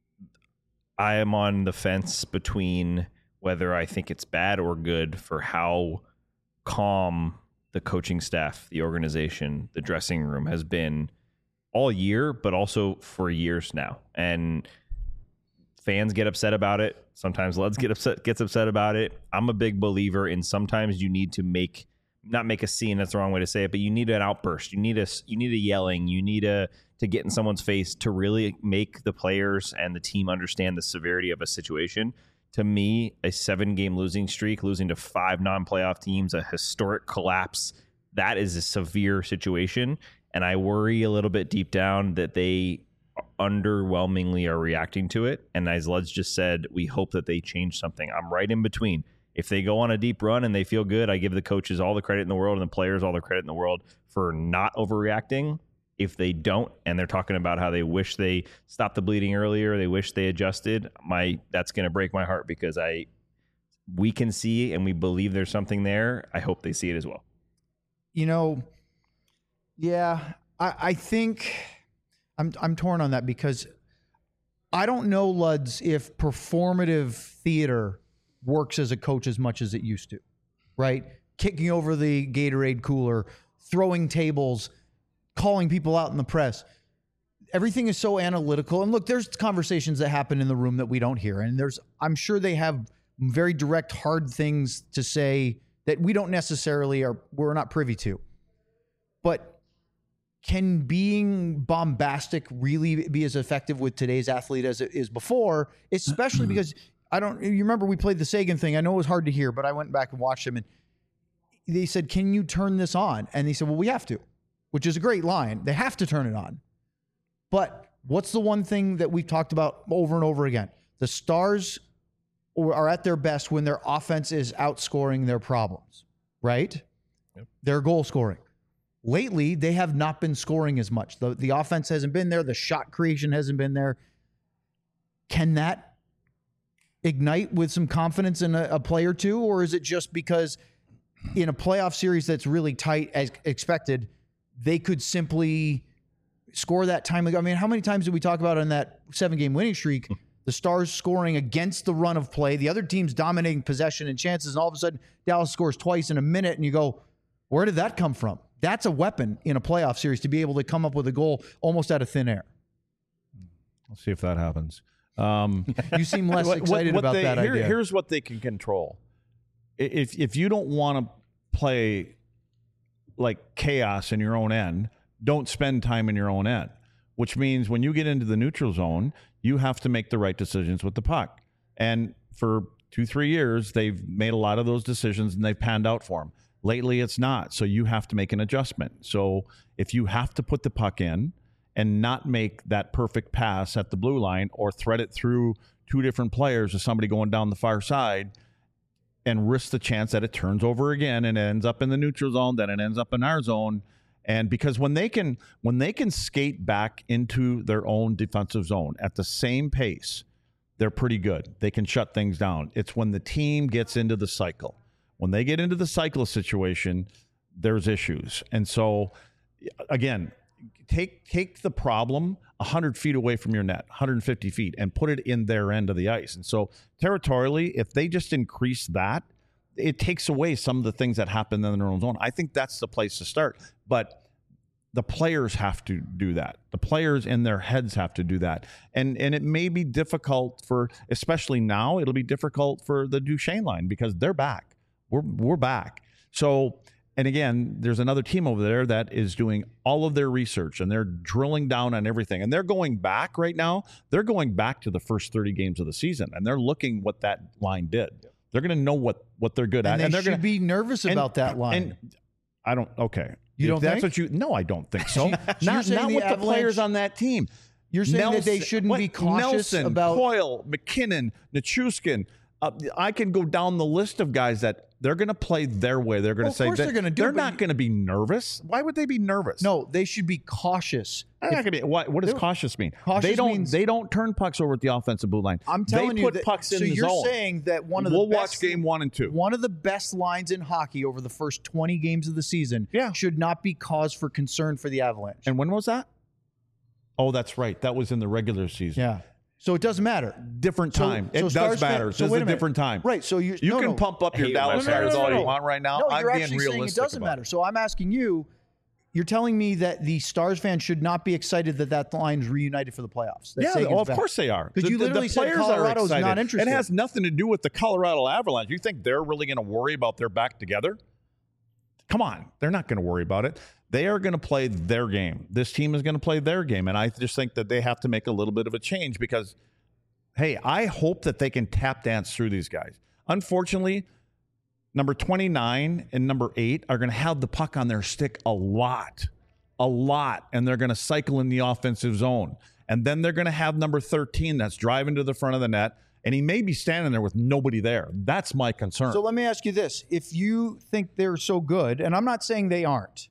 am on the fence between whether I think it's bad or good for how calm the coaching staff, the organization, the dressing room has been all year, but also for years now. And fans get upset about it. Sometimes Luds gets upset about it. I'm a big believer in sometimes you need to not make a scene, that's the wrong way to say it, but you need an outburst. You need a yelling. You need to get in someone's face to really make the players and the team understand the severity of a situation. To me, a 7-game losing streak, losing to 5 non-playoff teams, a historic collapse, that is a severe situation. And I worry a little bit deep down that they underwhelmingly are reacting to it. And as Luds just said, we hope that they change something. I'm right in between. If they go on a deep run and they feel good, I give the coaches all the credit in the world and the players all the credit in the world for not overreacting. If they don't, and they're talking about how they wish they stopped the bleeding earlier, they wish they adjusted, that's going to break my heart because we can see and we believe there's something there. I hope they see it as well. I think I'm torn on that because I don't know, Luds, if performative theater works as a coach as much as it used to, right? Kicking over the Gatorade cooler, throwing tables, calling people out in the press. Everything is so analytical. And look, there's conversations that happen in the room that we don't hear. And I'm sure they have very direct, hard things to say that we don't necessarily we're not privy to. But can being bombastic really be as effective with today's athlete as it is before? Especially because you remember we played the Sagan thing. I know it was hard to hear, but I went back and watched them and they said, "Can you turn this on?" And they said, "Well, we have to," which is a great line. They have to turn it on. But what's the one thing that we've talked about over and over again? The Stars are at their best when their offense is outscoring their problems, right? Yep. Their goal scoring. Lately, they have not been scoring as much. The offense hasn't been there. The shot creation hasn't been there. Can that ignite with some confidence in a play or two? Or is it just because in a playoff series that's really tight as expected, they could simply score that time ago? I mean, how many times did we talk about in that 7-game winning streak, the Stars scoring against the run of play, the other team's dominating possession and chances, and all of a sudden Dallas scores twice in a minute, and you go, where did that come from? That's a weapon in a playoff series to be able to come up with a goal almost out of thin air. We'll see if that happens. You seem less excited about that idea. Here's what they can control. If you don't want to play like chaos in your own end, don't spend time in your own end, which means when you get into the neutral zone, you have to make the right decisions with the puck. And for 2-3 years, they've made a lot of those decisions and they've panned out for them. Lately, it's not. So you have to make an adjustment. So if you have to put the puck in and not make that perfect pass at the blue line or thread it through 2 different players or somebody going down the far side and risk the chance that it turns over again and it ends up in the neutral zone, then it ends up in our zone. And because when they can skate back into their own defensive zone at the same pace, they're pretty good. They can shut things down. It's when the team gets into the cycle. When they get into the cycle situation, there's issues. And so, again, take the problem 100 feet away from your net, 150 feet, and put it in their end of the ice. And so, territorially, if they just increase that, it takes away some of the things that happen in their own zone. I think that's the place to start. But the players have to do that. The players in their heads have to do that. And it may be difficult especially now, it'll be difficult for the Duchesne line because they're back. We're back. So, and again, there's another team over there that is doing all of their research and they're drilling down on everything. And they're going back right now. They're going back to the first 30 games of the season and they're looking what that line did. They're going to know what they're good at. And they're going to be nervous about that line. And I don't, okay. You don't think? That's what no, I don't think so. not with the players on that team. You're saying that they shouldn't be cautious Nelson, about Coyle, McKinnon, Nichushkin. I can go down the list of guys that they're going to play their way. They're going to say they're not going to be nervous. Why would they be nervous? No, they should be cautious. What does cautious mean? Cautious they don't turn pucks over at the offensive blue line. I'm telling you, pucks in so the you're zone. saying that we'll watch game 1 and 2. One of the best lines in hockey over the first 20 games of the season should not be cause for concern for the Avalanche. And when was that? Oh, that's right. That was in the regular season. Yeah. So it doesn't matter. Different time. So it Stars does matter. fan- so This wait is a a minute. different time. Right. So you can pump up your hate Dallas when Stars all no. you want right now. No, I'm you're being actually saying it realistic doesn't about matter. So I'm asking you, you're telling me that the Stars fans should not be excited that line's reunited for the playoffs. That Yeah, Sagan's of back. course they are. Because you literally said players are Colorado's excited. not interested. It has nothing to do with the Colorado Avalanche. You think they're really going to worry about their back together? Come on. They're not going to worry about it. They are going to play their game. This team is going to play their game. And I just think that they have to make a little bit of a change because, hey, I hope that they can tap dance through these guys. Unfortunately, number 29 and number 8 are going to have the puck on their stick a lot, and they're going to cycle in the offensive zone. And then they're going to have number 13 that's driving to the front of the net, and he may be standing there with nobody there. That's my concern. So let me ask you this. If you think they're so good, and I'm not saying they aren't,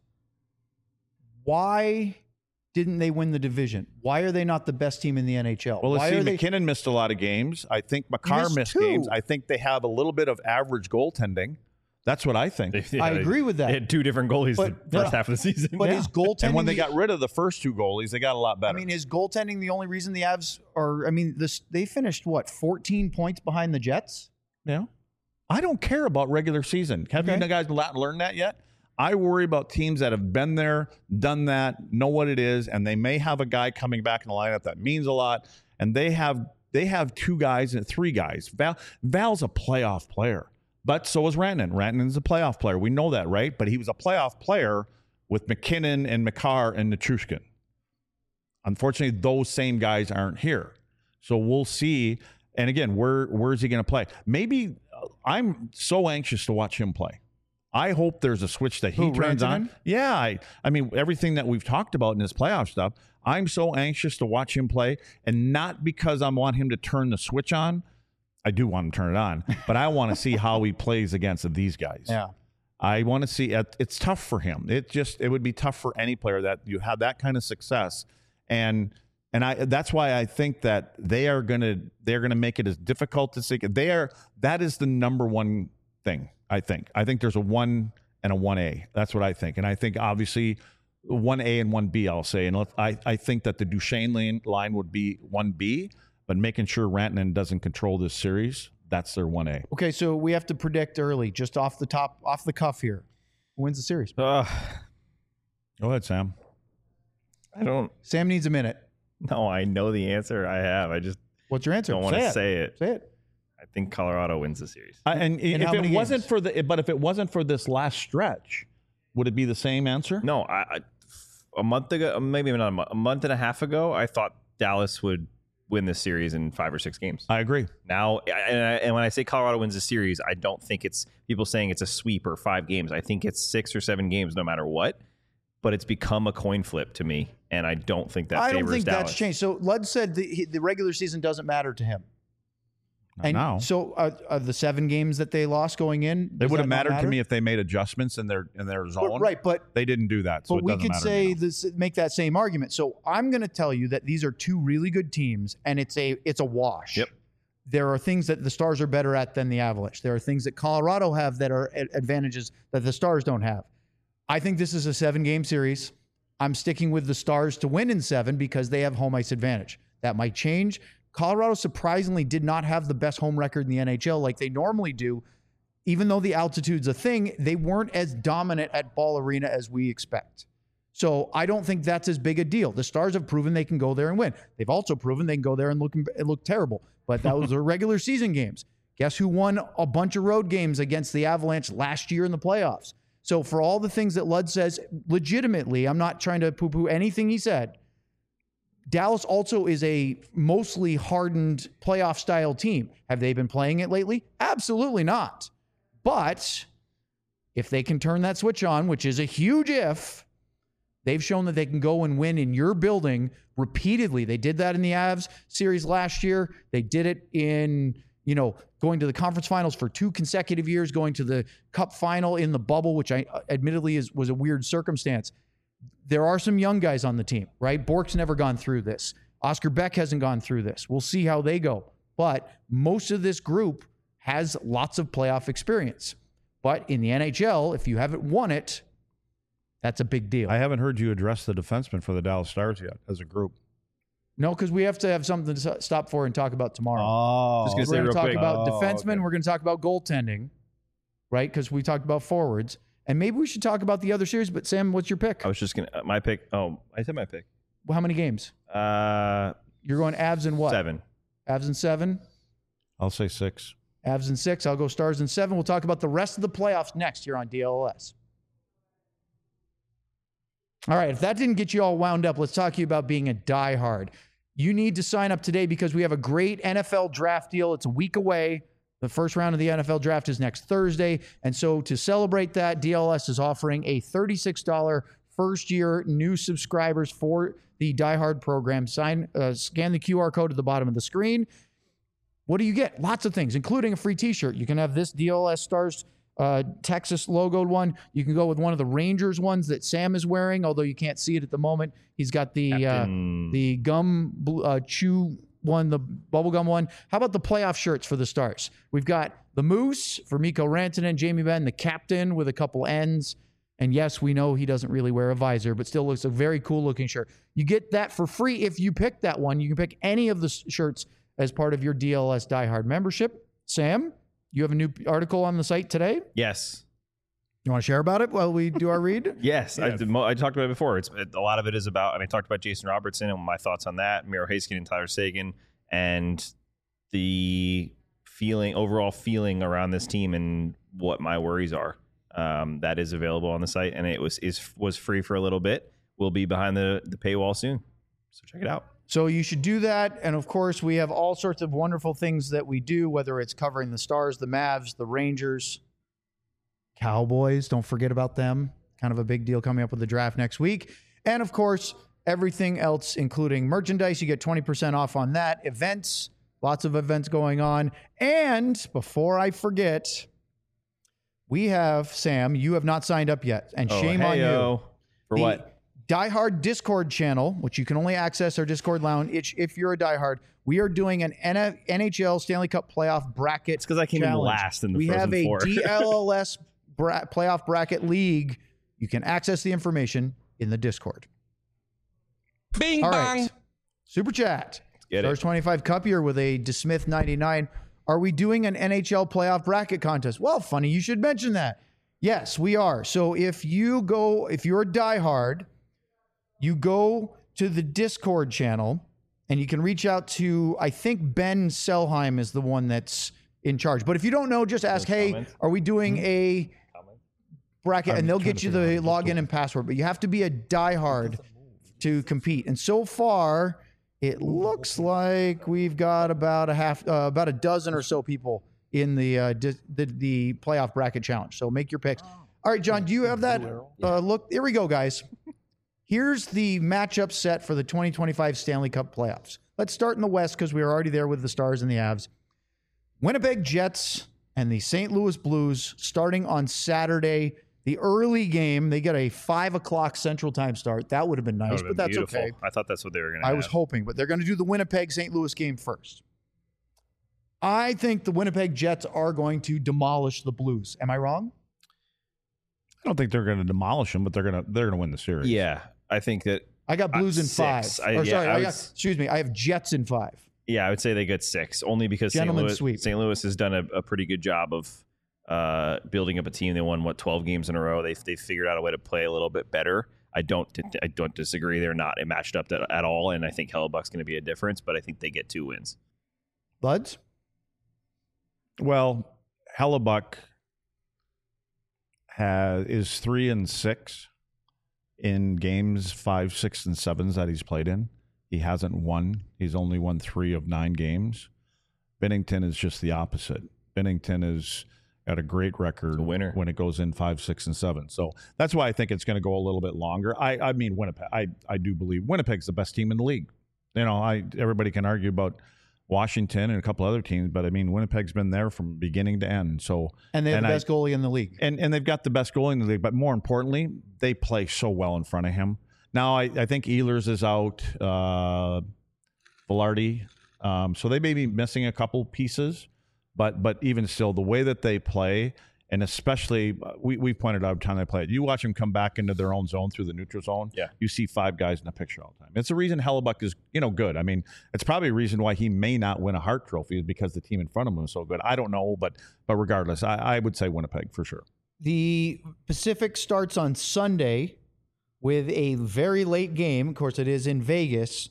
why didn't they win the division? Why are they not the best team in the NHL? Well, let's Why see. are they? McKinnon missed a lot of games. I think Makar missed 2. games. I think they have a little bit of average goaltending. That's what I think. Yeah, I agree with that. They had 2 different goalies But- the first half of the season. But Yeah. is goaltending? And when they the- got rid of the first 2 goalies, they got a lot better. I mean, is goaltending the only reason the Avs are? I mean, they finished what 14 points behind the Jets. Yeah. I don't care about regular season. Have Okay. you guys learned that yet? I worry about teams that have been there, done that, know what it is, and they may have a guy coming back in the lineup that means a lot, and they have 2 guys and 3 guys. Val's a playoff player, but so is Rantanen. Rantanen's a playoff player. We know that, right? But he was a playoff player with McKinnon and Makar and Nichushkin. Unfortunately, those same guys aren't here. So we'll see. And again, where's he going to play? Maybe I'm so anxious to watch him play. I hope there's a switch that he turns on. Rantanen? Yeah, I mean, everything that we've talked about in his playoff stuff, I'm so anxious to watch him play, and not because I want him to turn the switch on. I do want him to turn it on, but I want to see how he plays against these guys. Yeah. I want to see it's tough for him. It would be tough for any player that you have that kind of success. And that's why I think that they're gonna make it as difficult to see. That is the number one thing. I think there's a 1 and a 1A. That's what I think. And I think obviously 1A and 1B, I'll say. And I think that the Duchesne line would be 1B, but making sure Rantanen doesn't control this series, that's their 1A. Okay, so we have to predict early, just off the cuff here. Who wins the series? Go ahead, Sam. Sam needs a minute. No, I know the answer. I just What's your answer? don't want to say it. Say it. I think Colorado wins the series. And if how it many wasn't games? but if it wasn't for this last stretch, would it be the same answer? No, a month ago, maybe not a month and a half ago, I thought Dallas would win this series in 5 or 6 games. I agree. Now, and when I say Colorado wins the series, I don't think it's people saying it's a sweep or 5 games. I think it's 6 or 7 games, no matter what. But it's become a coin flip to me, and I don't think that favors Dallas. I don't think that's changed. So Lud said the regular season doesn't matter to him. And now. So the 7 games that they lost going in, They would have mattered to me if they made adjustments in their zone. But they didn't do that. So but we could say this, make that same argument. So I'm going to tell you that these are 2 really good teams, and it's a wash. Yep. There are things that the Stars are better at than the Avalanche. There are things that Colorado have that are advantages that the Stars don't have. I think this is a 7-game series. I'm sticking with the Stars to win in 7 because they have home ice advantage. That might change. Colorado surprisingly did not have the best home record in the NHL like they normally do. Even though the altitude's a thing, they weren't as dominant at Ball Arena as we expect. So I don't think that's as big a deal. The Stars have proven they can go there and win. They've also proven they can go there and look terrible. But that was their regular season games. Guess who won a bunch of road games against the Avalanche last year in the playoffs? So for all the things that Lud says, legitimately, I'm not trying to poo-poo anything he said, Dallas also is a mostly hardened playoff-style team. Have they been playing it lately? Absolutely not. But if they can turn that switch on, which is a huge if, they've shown that they can go and win in your building repeatedly. They did that in the Avs series last year. They did it in, going to the conference finals for 2 consecutive years, going to the cup final in the bubble, which I admittedly was a weird circumstance. There are some young guys on the team, right? Bork's never gone through this. Oscar Beck hasn't gone through this. We'll see how they go. But most of this group has lots of playoff experience. But in the NHL, if you haven't won it, that's a big deal. I haven't heard you address the defenseman for the Dallas Stars yet as a group. No, because we have to have something to stop for and talk about tomorrow. Oh, Just gonna say We're going real to talk quick. about defensemen. okay. We're going to talk about goaltending, right? Because we talked about forwards. And maybe we should talk about the other series. But Sam, what's your pick? I was just gonna my pick. Oh, I said my pick. How many games? You're going Avs and what? 7. Avs and 7. I'll say 6. Avs and 6. I'll go Stars and 7. We'll talk about the rest of the playoffs next here on DLS. All right. If that didn't get you all wound up, let's talk to you about being a diehard. You need to sign up today because we have a great NFL draft deal. It's a week away. The first round of the NFL draft is next Thursday. And so to celebrate that, DLS is offering a $36 first-year new subscribers for the Die Hard program. Scan the QR code at the bottom of the screen. What do you get? Lots of things, including a free T-shirt. You can have this DLS Stars Texas logoed one. You can go with one of the Rangers ones that Sam is wearing, although you can't see it at the moment. He's got the gum chew one, the bubblegum one. How about the playoff shirts for the Stars? We've got the Moose for Mikko Rantanen, Jamie Benn, the captain with a couple ends. And yes, we know he doesn't really wear a visor, but still looks a very cool looking shirt. You get that for free if you pick that one. You can pick any of the shirts as part of your DLS Die Hard membership. Sam, you have a new article on the site today. Yes. You want to share about it while we do our read? Yes, I talked about it before. A lot of it is about. I talked about Jason Robertson and my thoughts on that, Miro Heiskanen and Tyler Seguin, and the overall feeling around this team and what my worries are. That is available on the site, and it was free for a little bit. Will be behind the paywall soon, so check it out. So you should do that. And of course, we have all sorts of wonderful things that we do, whether it's covering the Stars, the Mavs, the Rangers, Cowboys. Don't forget about them. Kind of a big deal coming up with the draft next week. And of course, everything else, including merchandise. You get 20% off on that. Events, lots of events going on. And before I forget, we have, Sam, you have not signed up yet. And shame on you. For what? Die Hard Discord channel, which you can only access our Discord lounge if you're a Die Hard. We are doing an NHL Stanley Cup playoff bracket. It's because I came in last in the Frozen Four. We have a DLS playoff bracket league. You can access the information in the Discord. Bing All bang. right. Super chat. Get it. Stars 25 Cup here with a DeSmith 99. Are we doing an NHL playoff bracket contest? Well, funny you should mention that. Yes, we are. So if you're a diehard, you go to the Discord channel and you can reach out to, I think Ben Selheim is the one that's in charge. But if you don't know, just ask, hey, are we doing a bracket? And they'll get you the login and password. But you have to be a diehard to compete. And so far, it looks like we've got about a dozen or so people in the playoff bracket challenge. So make your picks. All right, John, do you have that? Look, here we go, guys. Here's the matchup set for the 2025 Stanley Cup playoffs. Let's start in the West because we were already there with the Stars and the Avs. Winnipeg Jets and the St. Louis Blues starting on Saturday. The early game, they get a 5 o'clock Central Time start. That would have been nice, but that's beautiful. okay. I thought that's what they were going to I was hoping, but they're going to do the Winnipeg-St. Louis game first. I think the Winnipeg Jets are going to demolish the Blues. Am I wrong? I don't think they're going to demolish them, but they're going to win the series. Yeah, I think that I got Blues in 6. 5. I have Jets in 5. Yeah, I would say they get 6, only because St. Louis has done a pretty good job of building up a team. They won 12 games in a row. They figured out a way to play a little bit better. I don't disagree. They're not matched up at all, and I think Hellebuck's going to be a difference. But I think they get 2 wins. Buds? Well, Hellebuck is 3-6 in games 5, 6, and 7s that he's played in. He hasn't won. He's only won 3 of 9 games. Binnington is just the opposite. Binnington is at a great record winner when it goes in 5, 6, and 7. So that's why I think it's going to go a little bit longer. I mean, Winnipeg. I do believe Winnipeg's the best team in the league. You know, everybody can argue about Washington and a couple other teams, but I mean, Winnipeg's been there from beginning to end. So and they have the best goalie in the league. And they've got the best goalie in the league, but more importantly, they play so well in front of him. Now, I think Ehlers is out, Velarde. So they may be missing a couple pieces, but even still, the way that they play And especially, we pointed out every time they play it. You watch them come back into their own zone through the neutral zone. Yeah. You see 5 guys in the picture all the time. It's the reason Hellebuck is, good. I mean, it's probably a reason why he may not win a Hart Trophy is because the team in front of him is so good. I don't know, but regardless, I would say Winnipeg for sure. The Pacific starts on Sunday with a very late game. Of course, it is in Vegas,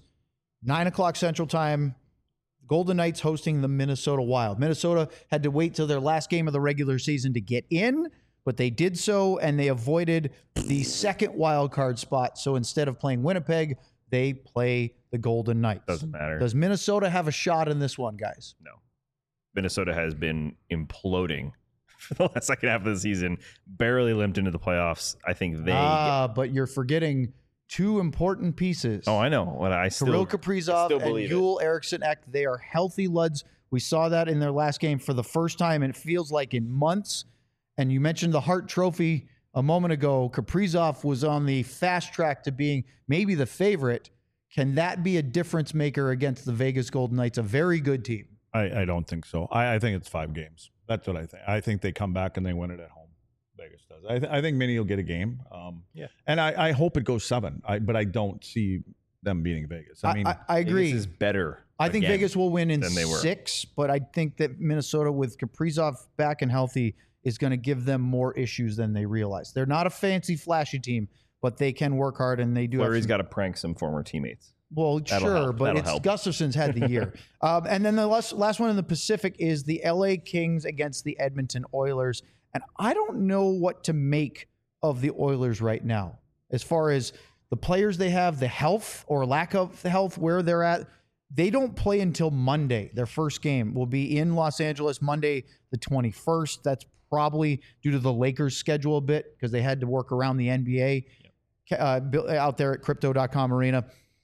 9 o'clock Central Time. Golden Knights hosting the Minnesota Wild. Minnesota had to wait till their last game of the regular season to get in, but they did so, and they avoided the second wild card spot. So instead of playing Winnipeg, they play the Golden Knights. Doesn't matter. Does Minnesota have a shot in this one, guys? No. Minnesota has been imploding for the last second half of the season, barely limped into the playoffs. I think they... but you're forgetting 2 important pieces. Oh, I know. But I still... Kirill Kaprizov and Joel Eriksson Ek, they are healthy Luds. We saw that in their last game for the first time, and it feels like in months. And you mentioned the Hart Trophy a moment ago. Kaprizov was on the fast track to being maybe the favorite. Can that be a difference maker against the Vegas Golden Knights, a very good team? I don't think so. I think it's 5 games. That's what I think. I think they come back and they win it at home. Vegas does. I think Minnie will get a game. And I hope it goes 7. But I don't see them beating Vegas. I mean, I agree. Vegas is better. I think Vegas will win in 6, but I think that Minnesota with Kaprizov back and healthy is going to give them more issues than they realize. They're not a fancy, flashy team, but they can work hard, and they do. Fleury's got to prank some former teammates. Well, sure, but Gustafson's had the year. And then the last one in the Pacific is the LA Kings against the Edmonton Oilers. And I don't know what to make of the Oilers right now, as far as the players they have, the health or lack of health, where they're at. They don't play until Monday. Their first game will be in Los Angeles, Monday the 21st. That's probably due to the Lakers' schedule a bit because they had to work around the NBA out there at Crypto.com Arena.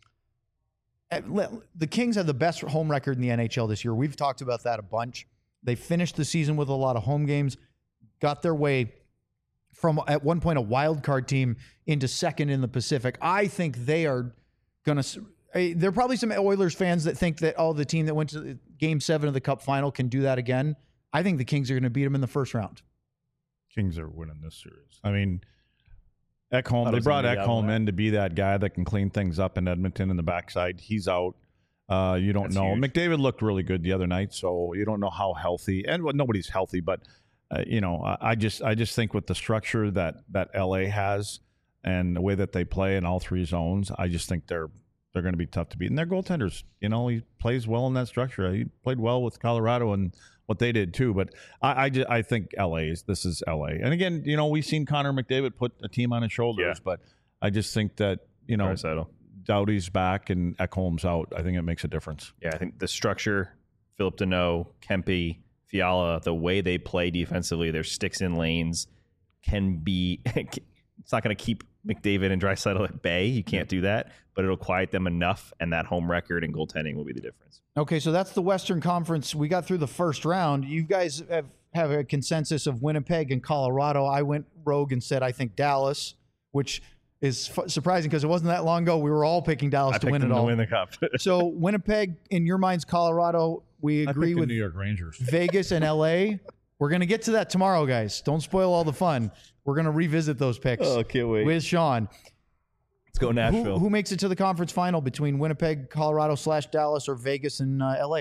The Kings have the best home record in the NHL this year. We've talked about that a bunch. They finished the season with a lot of home games, got their way from, at one point, a wild card team into second in the Pacific. I think they are going to... There are probably some Oilers fans that think that, the team that went to Game 7 of the Cup final can do that again. I think the Kings are going to beat them in the first round. Kings are winning this series. I mean, Ekholm, they brought Ekholm in to be that guy that can clean things up in Edmonton in the backside. He's out. You don't know. Huge. McDavid looked really good the other night, so you don't know how healthy. And nobody's healthy, but I just think with the structure that LA has and the way that they play in all 3 zones, I just think they're going to be tough to beat. And their goaltenders, he plays well in that structure. He played well with Colorado and what they did too. But I think this is LA. And again, we've seen Connor McDavid put a team on his shoulders, but I just think that, Doughty's back and Ekholm's out. I think it makes a difference. Yeah, I think the structure, Philip Deneau, Kempe, Fiala, the way they play defensively, their sticks in lanes can be... It's not going to keep McDavid and Draisaitl at bay. You can't do that, but it'll quiet them enough, and that home record and goaltending will be the difference. Okay, so that's the Western Conference. We got through the first round. You guys have a consensus of Winnipeg and Colorado. I went rogue and said I think Dallas, which is surprising because it wasn't that long ago we were all picking Dallas to win it all. To win the Cup. So Winnipeg, in your minds, Colorado. We agree with the New York Rangers, Vegas, and LA. We're going to get to that tomorrow, guys. Don't spoil all the fun. We're going to revisit those picks. Oh, can't wait. With Sean. Let's go Nashville. Who makes it to the conference final between Winnipeg, Colorado / Dallas, or Vegas and LA?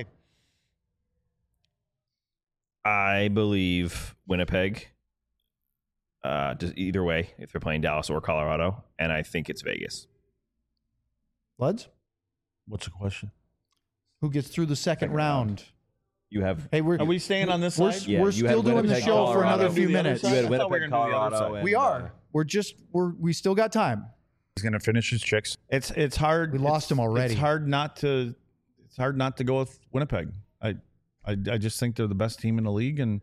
I believe Winnipeg. Just either way, if they're playing Dallas or Colorado, and I think it's Vegas. Luds? What's the question? Who gets through the second round? You have. Hey, are we staying on this side? We're still doing the show for another few minutes. You had Winnipeg, Colorado. We are. We still got time. He's going to finish his chicks. It's hard. We lost him already. It's hard not to go with Winnipeg. I just think they're the best team in the league, and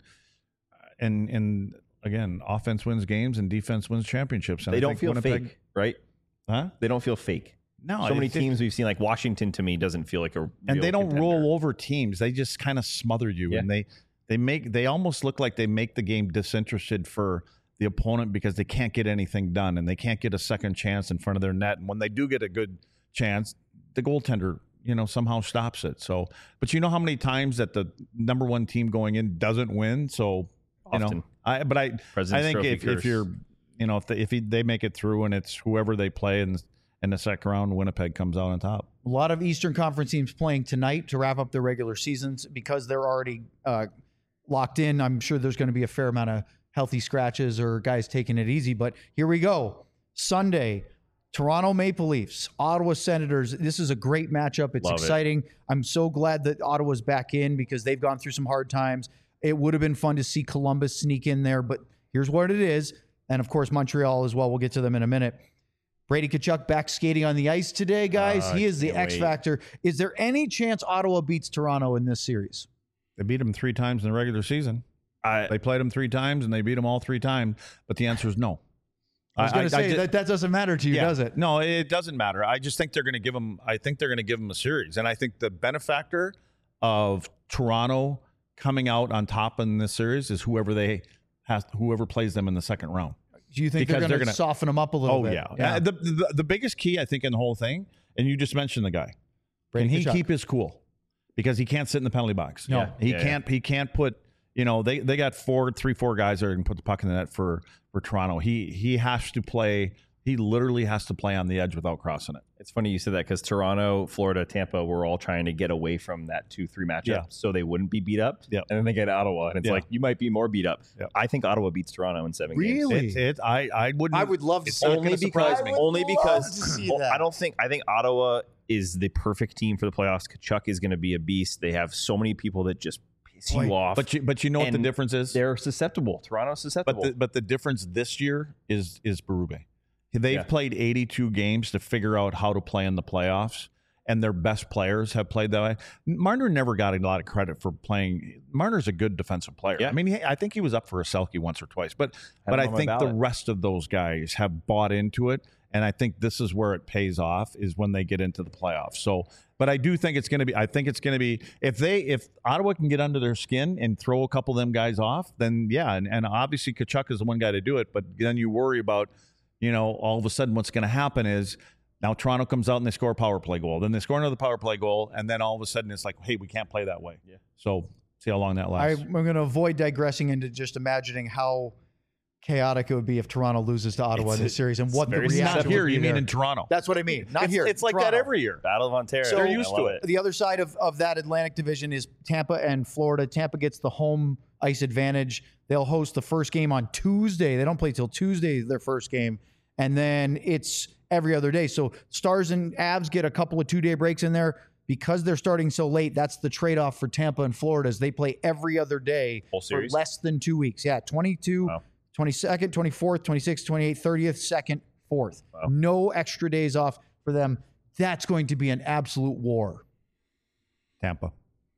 again, offense wins games and defense wins championships. And they don't feel fake, right? Huh? They don't feel fake. No, so many teams we've seen, like Washington, to me, doesn't feel like a real and they don't contender. roll over teams. They just kind of smother you, and they almost look like they make the game disinterested for the opponent because they can't get anything done and they can't get a second chance in front of their net. And when they do get a good chance, the goaltender, somehow stops it. So, but you know how many times that the number one team going in doesn't win? So, Often. I President's think Trophy if curse. you're, if they make it through and it's whoever they play in the second round, Winnipeg comes out on top. A lot of Eastern Conference teams playing tonight to wrap up their regular seasons because they're already locked in. I'm sure there's going to be a fair amount of healthy scratches or guys taking it easy. But here we go. Sunday, Toronto Maple Leafs, Ottawa Senators. This is a great matchup. It's exciting. I'm so glad that Ottawa's back in because they've gone through some hard times. It would have been fun to see Columbus sneak in there, but here's what it is. And, of course, Montreal as well. We'll get to them in a minute. Brady Tkachuk back skating on the ice today, guys. He is the X factor. Is there any chance Ottawa beats Toronto in this series? They beat them 3 times in the regular season. They played them 3 times, and they beat them all 3 times. But the answer is no. I was going to say that doesn't matter to you, does it? No, it doesn't matter. I just think they're going to give them. I think they're going to give them a series, and I think the benefactor of Toronto coming out on top in this series is whoever plays them in the second round. Do you think they're going to soften them up a little bit? Oh yeah. The biggest key I think in the whole thing, and you just mentioned the guy, can he keep his cool? Because he can't sit in the penalty box. No, he can't. He can't put. They got 4 guys that are going to put the puck in the net for Toronto. He has to play. He literally has to play on the edge without crossing it. It's funny you said that because Toronto, Florida, Tampa were all trying to get away from that 2-3 matchup so they wouldn't be beat up. Yep. And then they get Ottawa, and it's like, you might be more beat up. Yep. I think Ottawa beats Toronto in 7 games. Really? I would love to see only because that. I think Ottawa is the perfect team for the playoffs. Tkachuk is going to be a beast. They have so many people that just piss you off. But you know what the difference is? They're susceptible. Toronto's susceptible. But the difference this year is Berube. They've played 82 games to figure out how to play in the playoffs, and their best players have played that way. Marner never got a lot of credit for playing. Marner's a good defensive player. Yeah. I mean, I think he was up for a Selke once or twice, but I think the rest of those guys have bought into it, and I think this is where it pays off is when they get into the playoffs. So, but I do think it's going to be. I think it's going to be if Ottawa can get under their skin and throw a couple of them guys off, then yeah, and obviously Tkachuk is the one guy to do it. But then you worry about. All of a sudden what's going to happen is now Toronto comes out and they score a power play goal. Then they score another power play goal. And then all of a sudden it's like, hey, we can't play that way. Yeah. So see how long that lasts. I'm going to avoid digressing into just imagining how chaotic it would be if Toronto loses to Ottawa in this series and what the reaction not here. would be You mean there. in Toronto? That's what I mean. Not here. It's like Toronto. that every year. Battle of Ontario. So they're used to it. The other side of that Atlantic division is Tampa and Florida. Tampa gets the home ice advantage. They'll host the first game on Tuesday. They don't play till Tuesday, their first game. And then it's every other day. So Stars and Avs get a couple of 2-day breaks in there. Because they're starting so late, that's the trade-off for Tampa and Florida is they play every other day for less than 2 weeks. Yeah, 22, 22nd, 24th, 26th, 28th, 30th, 2nd, 4th. Wow. No extra days off for them. That's going to be an absolute war. Tampa.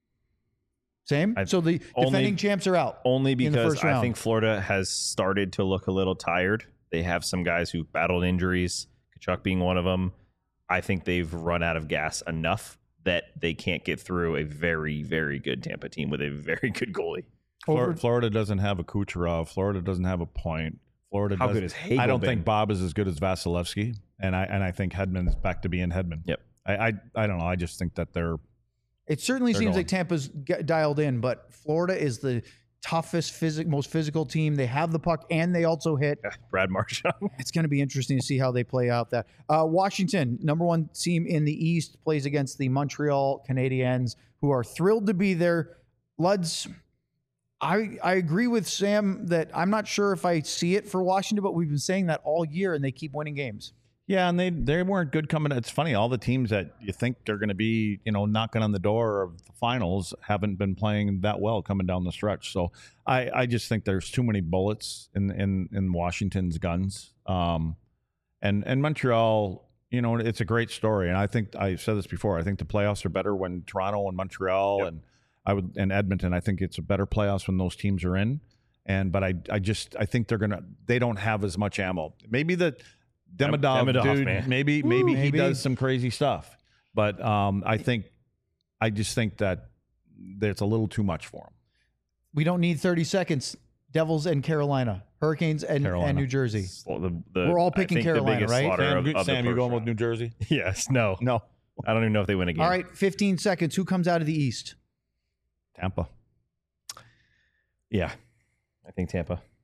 Same? So the defending champs are out. Only because I think Florida has started to look a little tired. They have some guys who battled injuries, Tkachuk being one of them. I think they've run out of gas enough that they can't get through a very, very good Tampa team with a very good goalie. Florida doesn't have a Kucherov. Florida doesn't have a point. Florida. How good is Hagel? I don't think Bob is as good as Vasilevsky, and I think Hedman's back to being Hedman. Yep. I don't know. I just think that they're. It certainly seems like Tampa's dialed in, but Florida is the toughest, most physical team. They have the puck and they also hit. Brad Marchand. It's going to be interesting to see how they play out that. Washington, number 1 team in the East, plays against the Montreal Canadiens, who are thrilled to be there. Luds, I agree with Sam that I'm not sure if I see it for Washington, but we've been saying that all year, and they keep winning games. Yeah, and they weren't good coming. It's funny, all the teams that you think they're going to be, knocking on the door of the finals haven't been playing that well coming down the stretch. So I just think there's too many bullets in Washington's guns. And Montreal, it's a great story. And I think I said this before. I think the playoffs are better when Toronto and Montreal and Edmonton. I think it's a better playoffs when those teams are in. But I think they don't have as much ammo. Maybe Demidov dude, man. Maybe he does some crazy stuff, but I just think that it's a little too much for him. We don't need 30 seconds. Devils and Carolina, Hurricanes and New Jersey. We're all picking Carolina, right? Sam, you going with New Jersey? Yes. No. I don't even know if they win a game. All right, 15 seconds. Who comes out of the East? Tampa. Yeah, I think Tampa.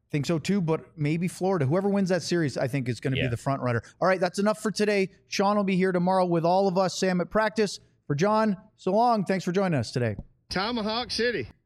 think so too, but maybe Florida. Whoever wins that series, I think, is going to be the front runner. All right, that's enough for today. Sean will be here tomorrow with all of us. Sam at practice. For John, so long. Thanks for joining us today. Tomahawk City.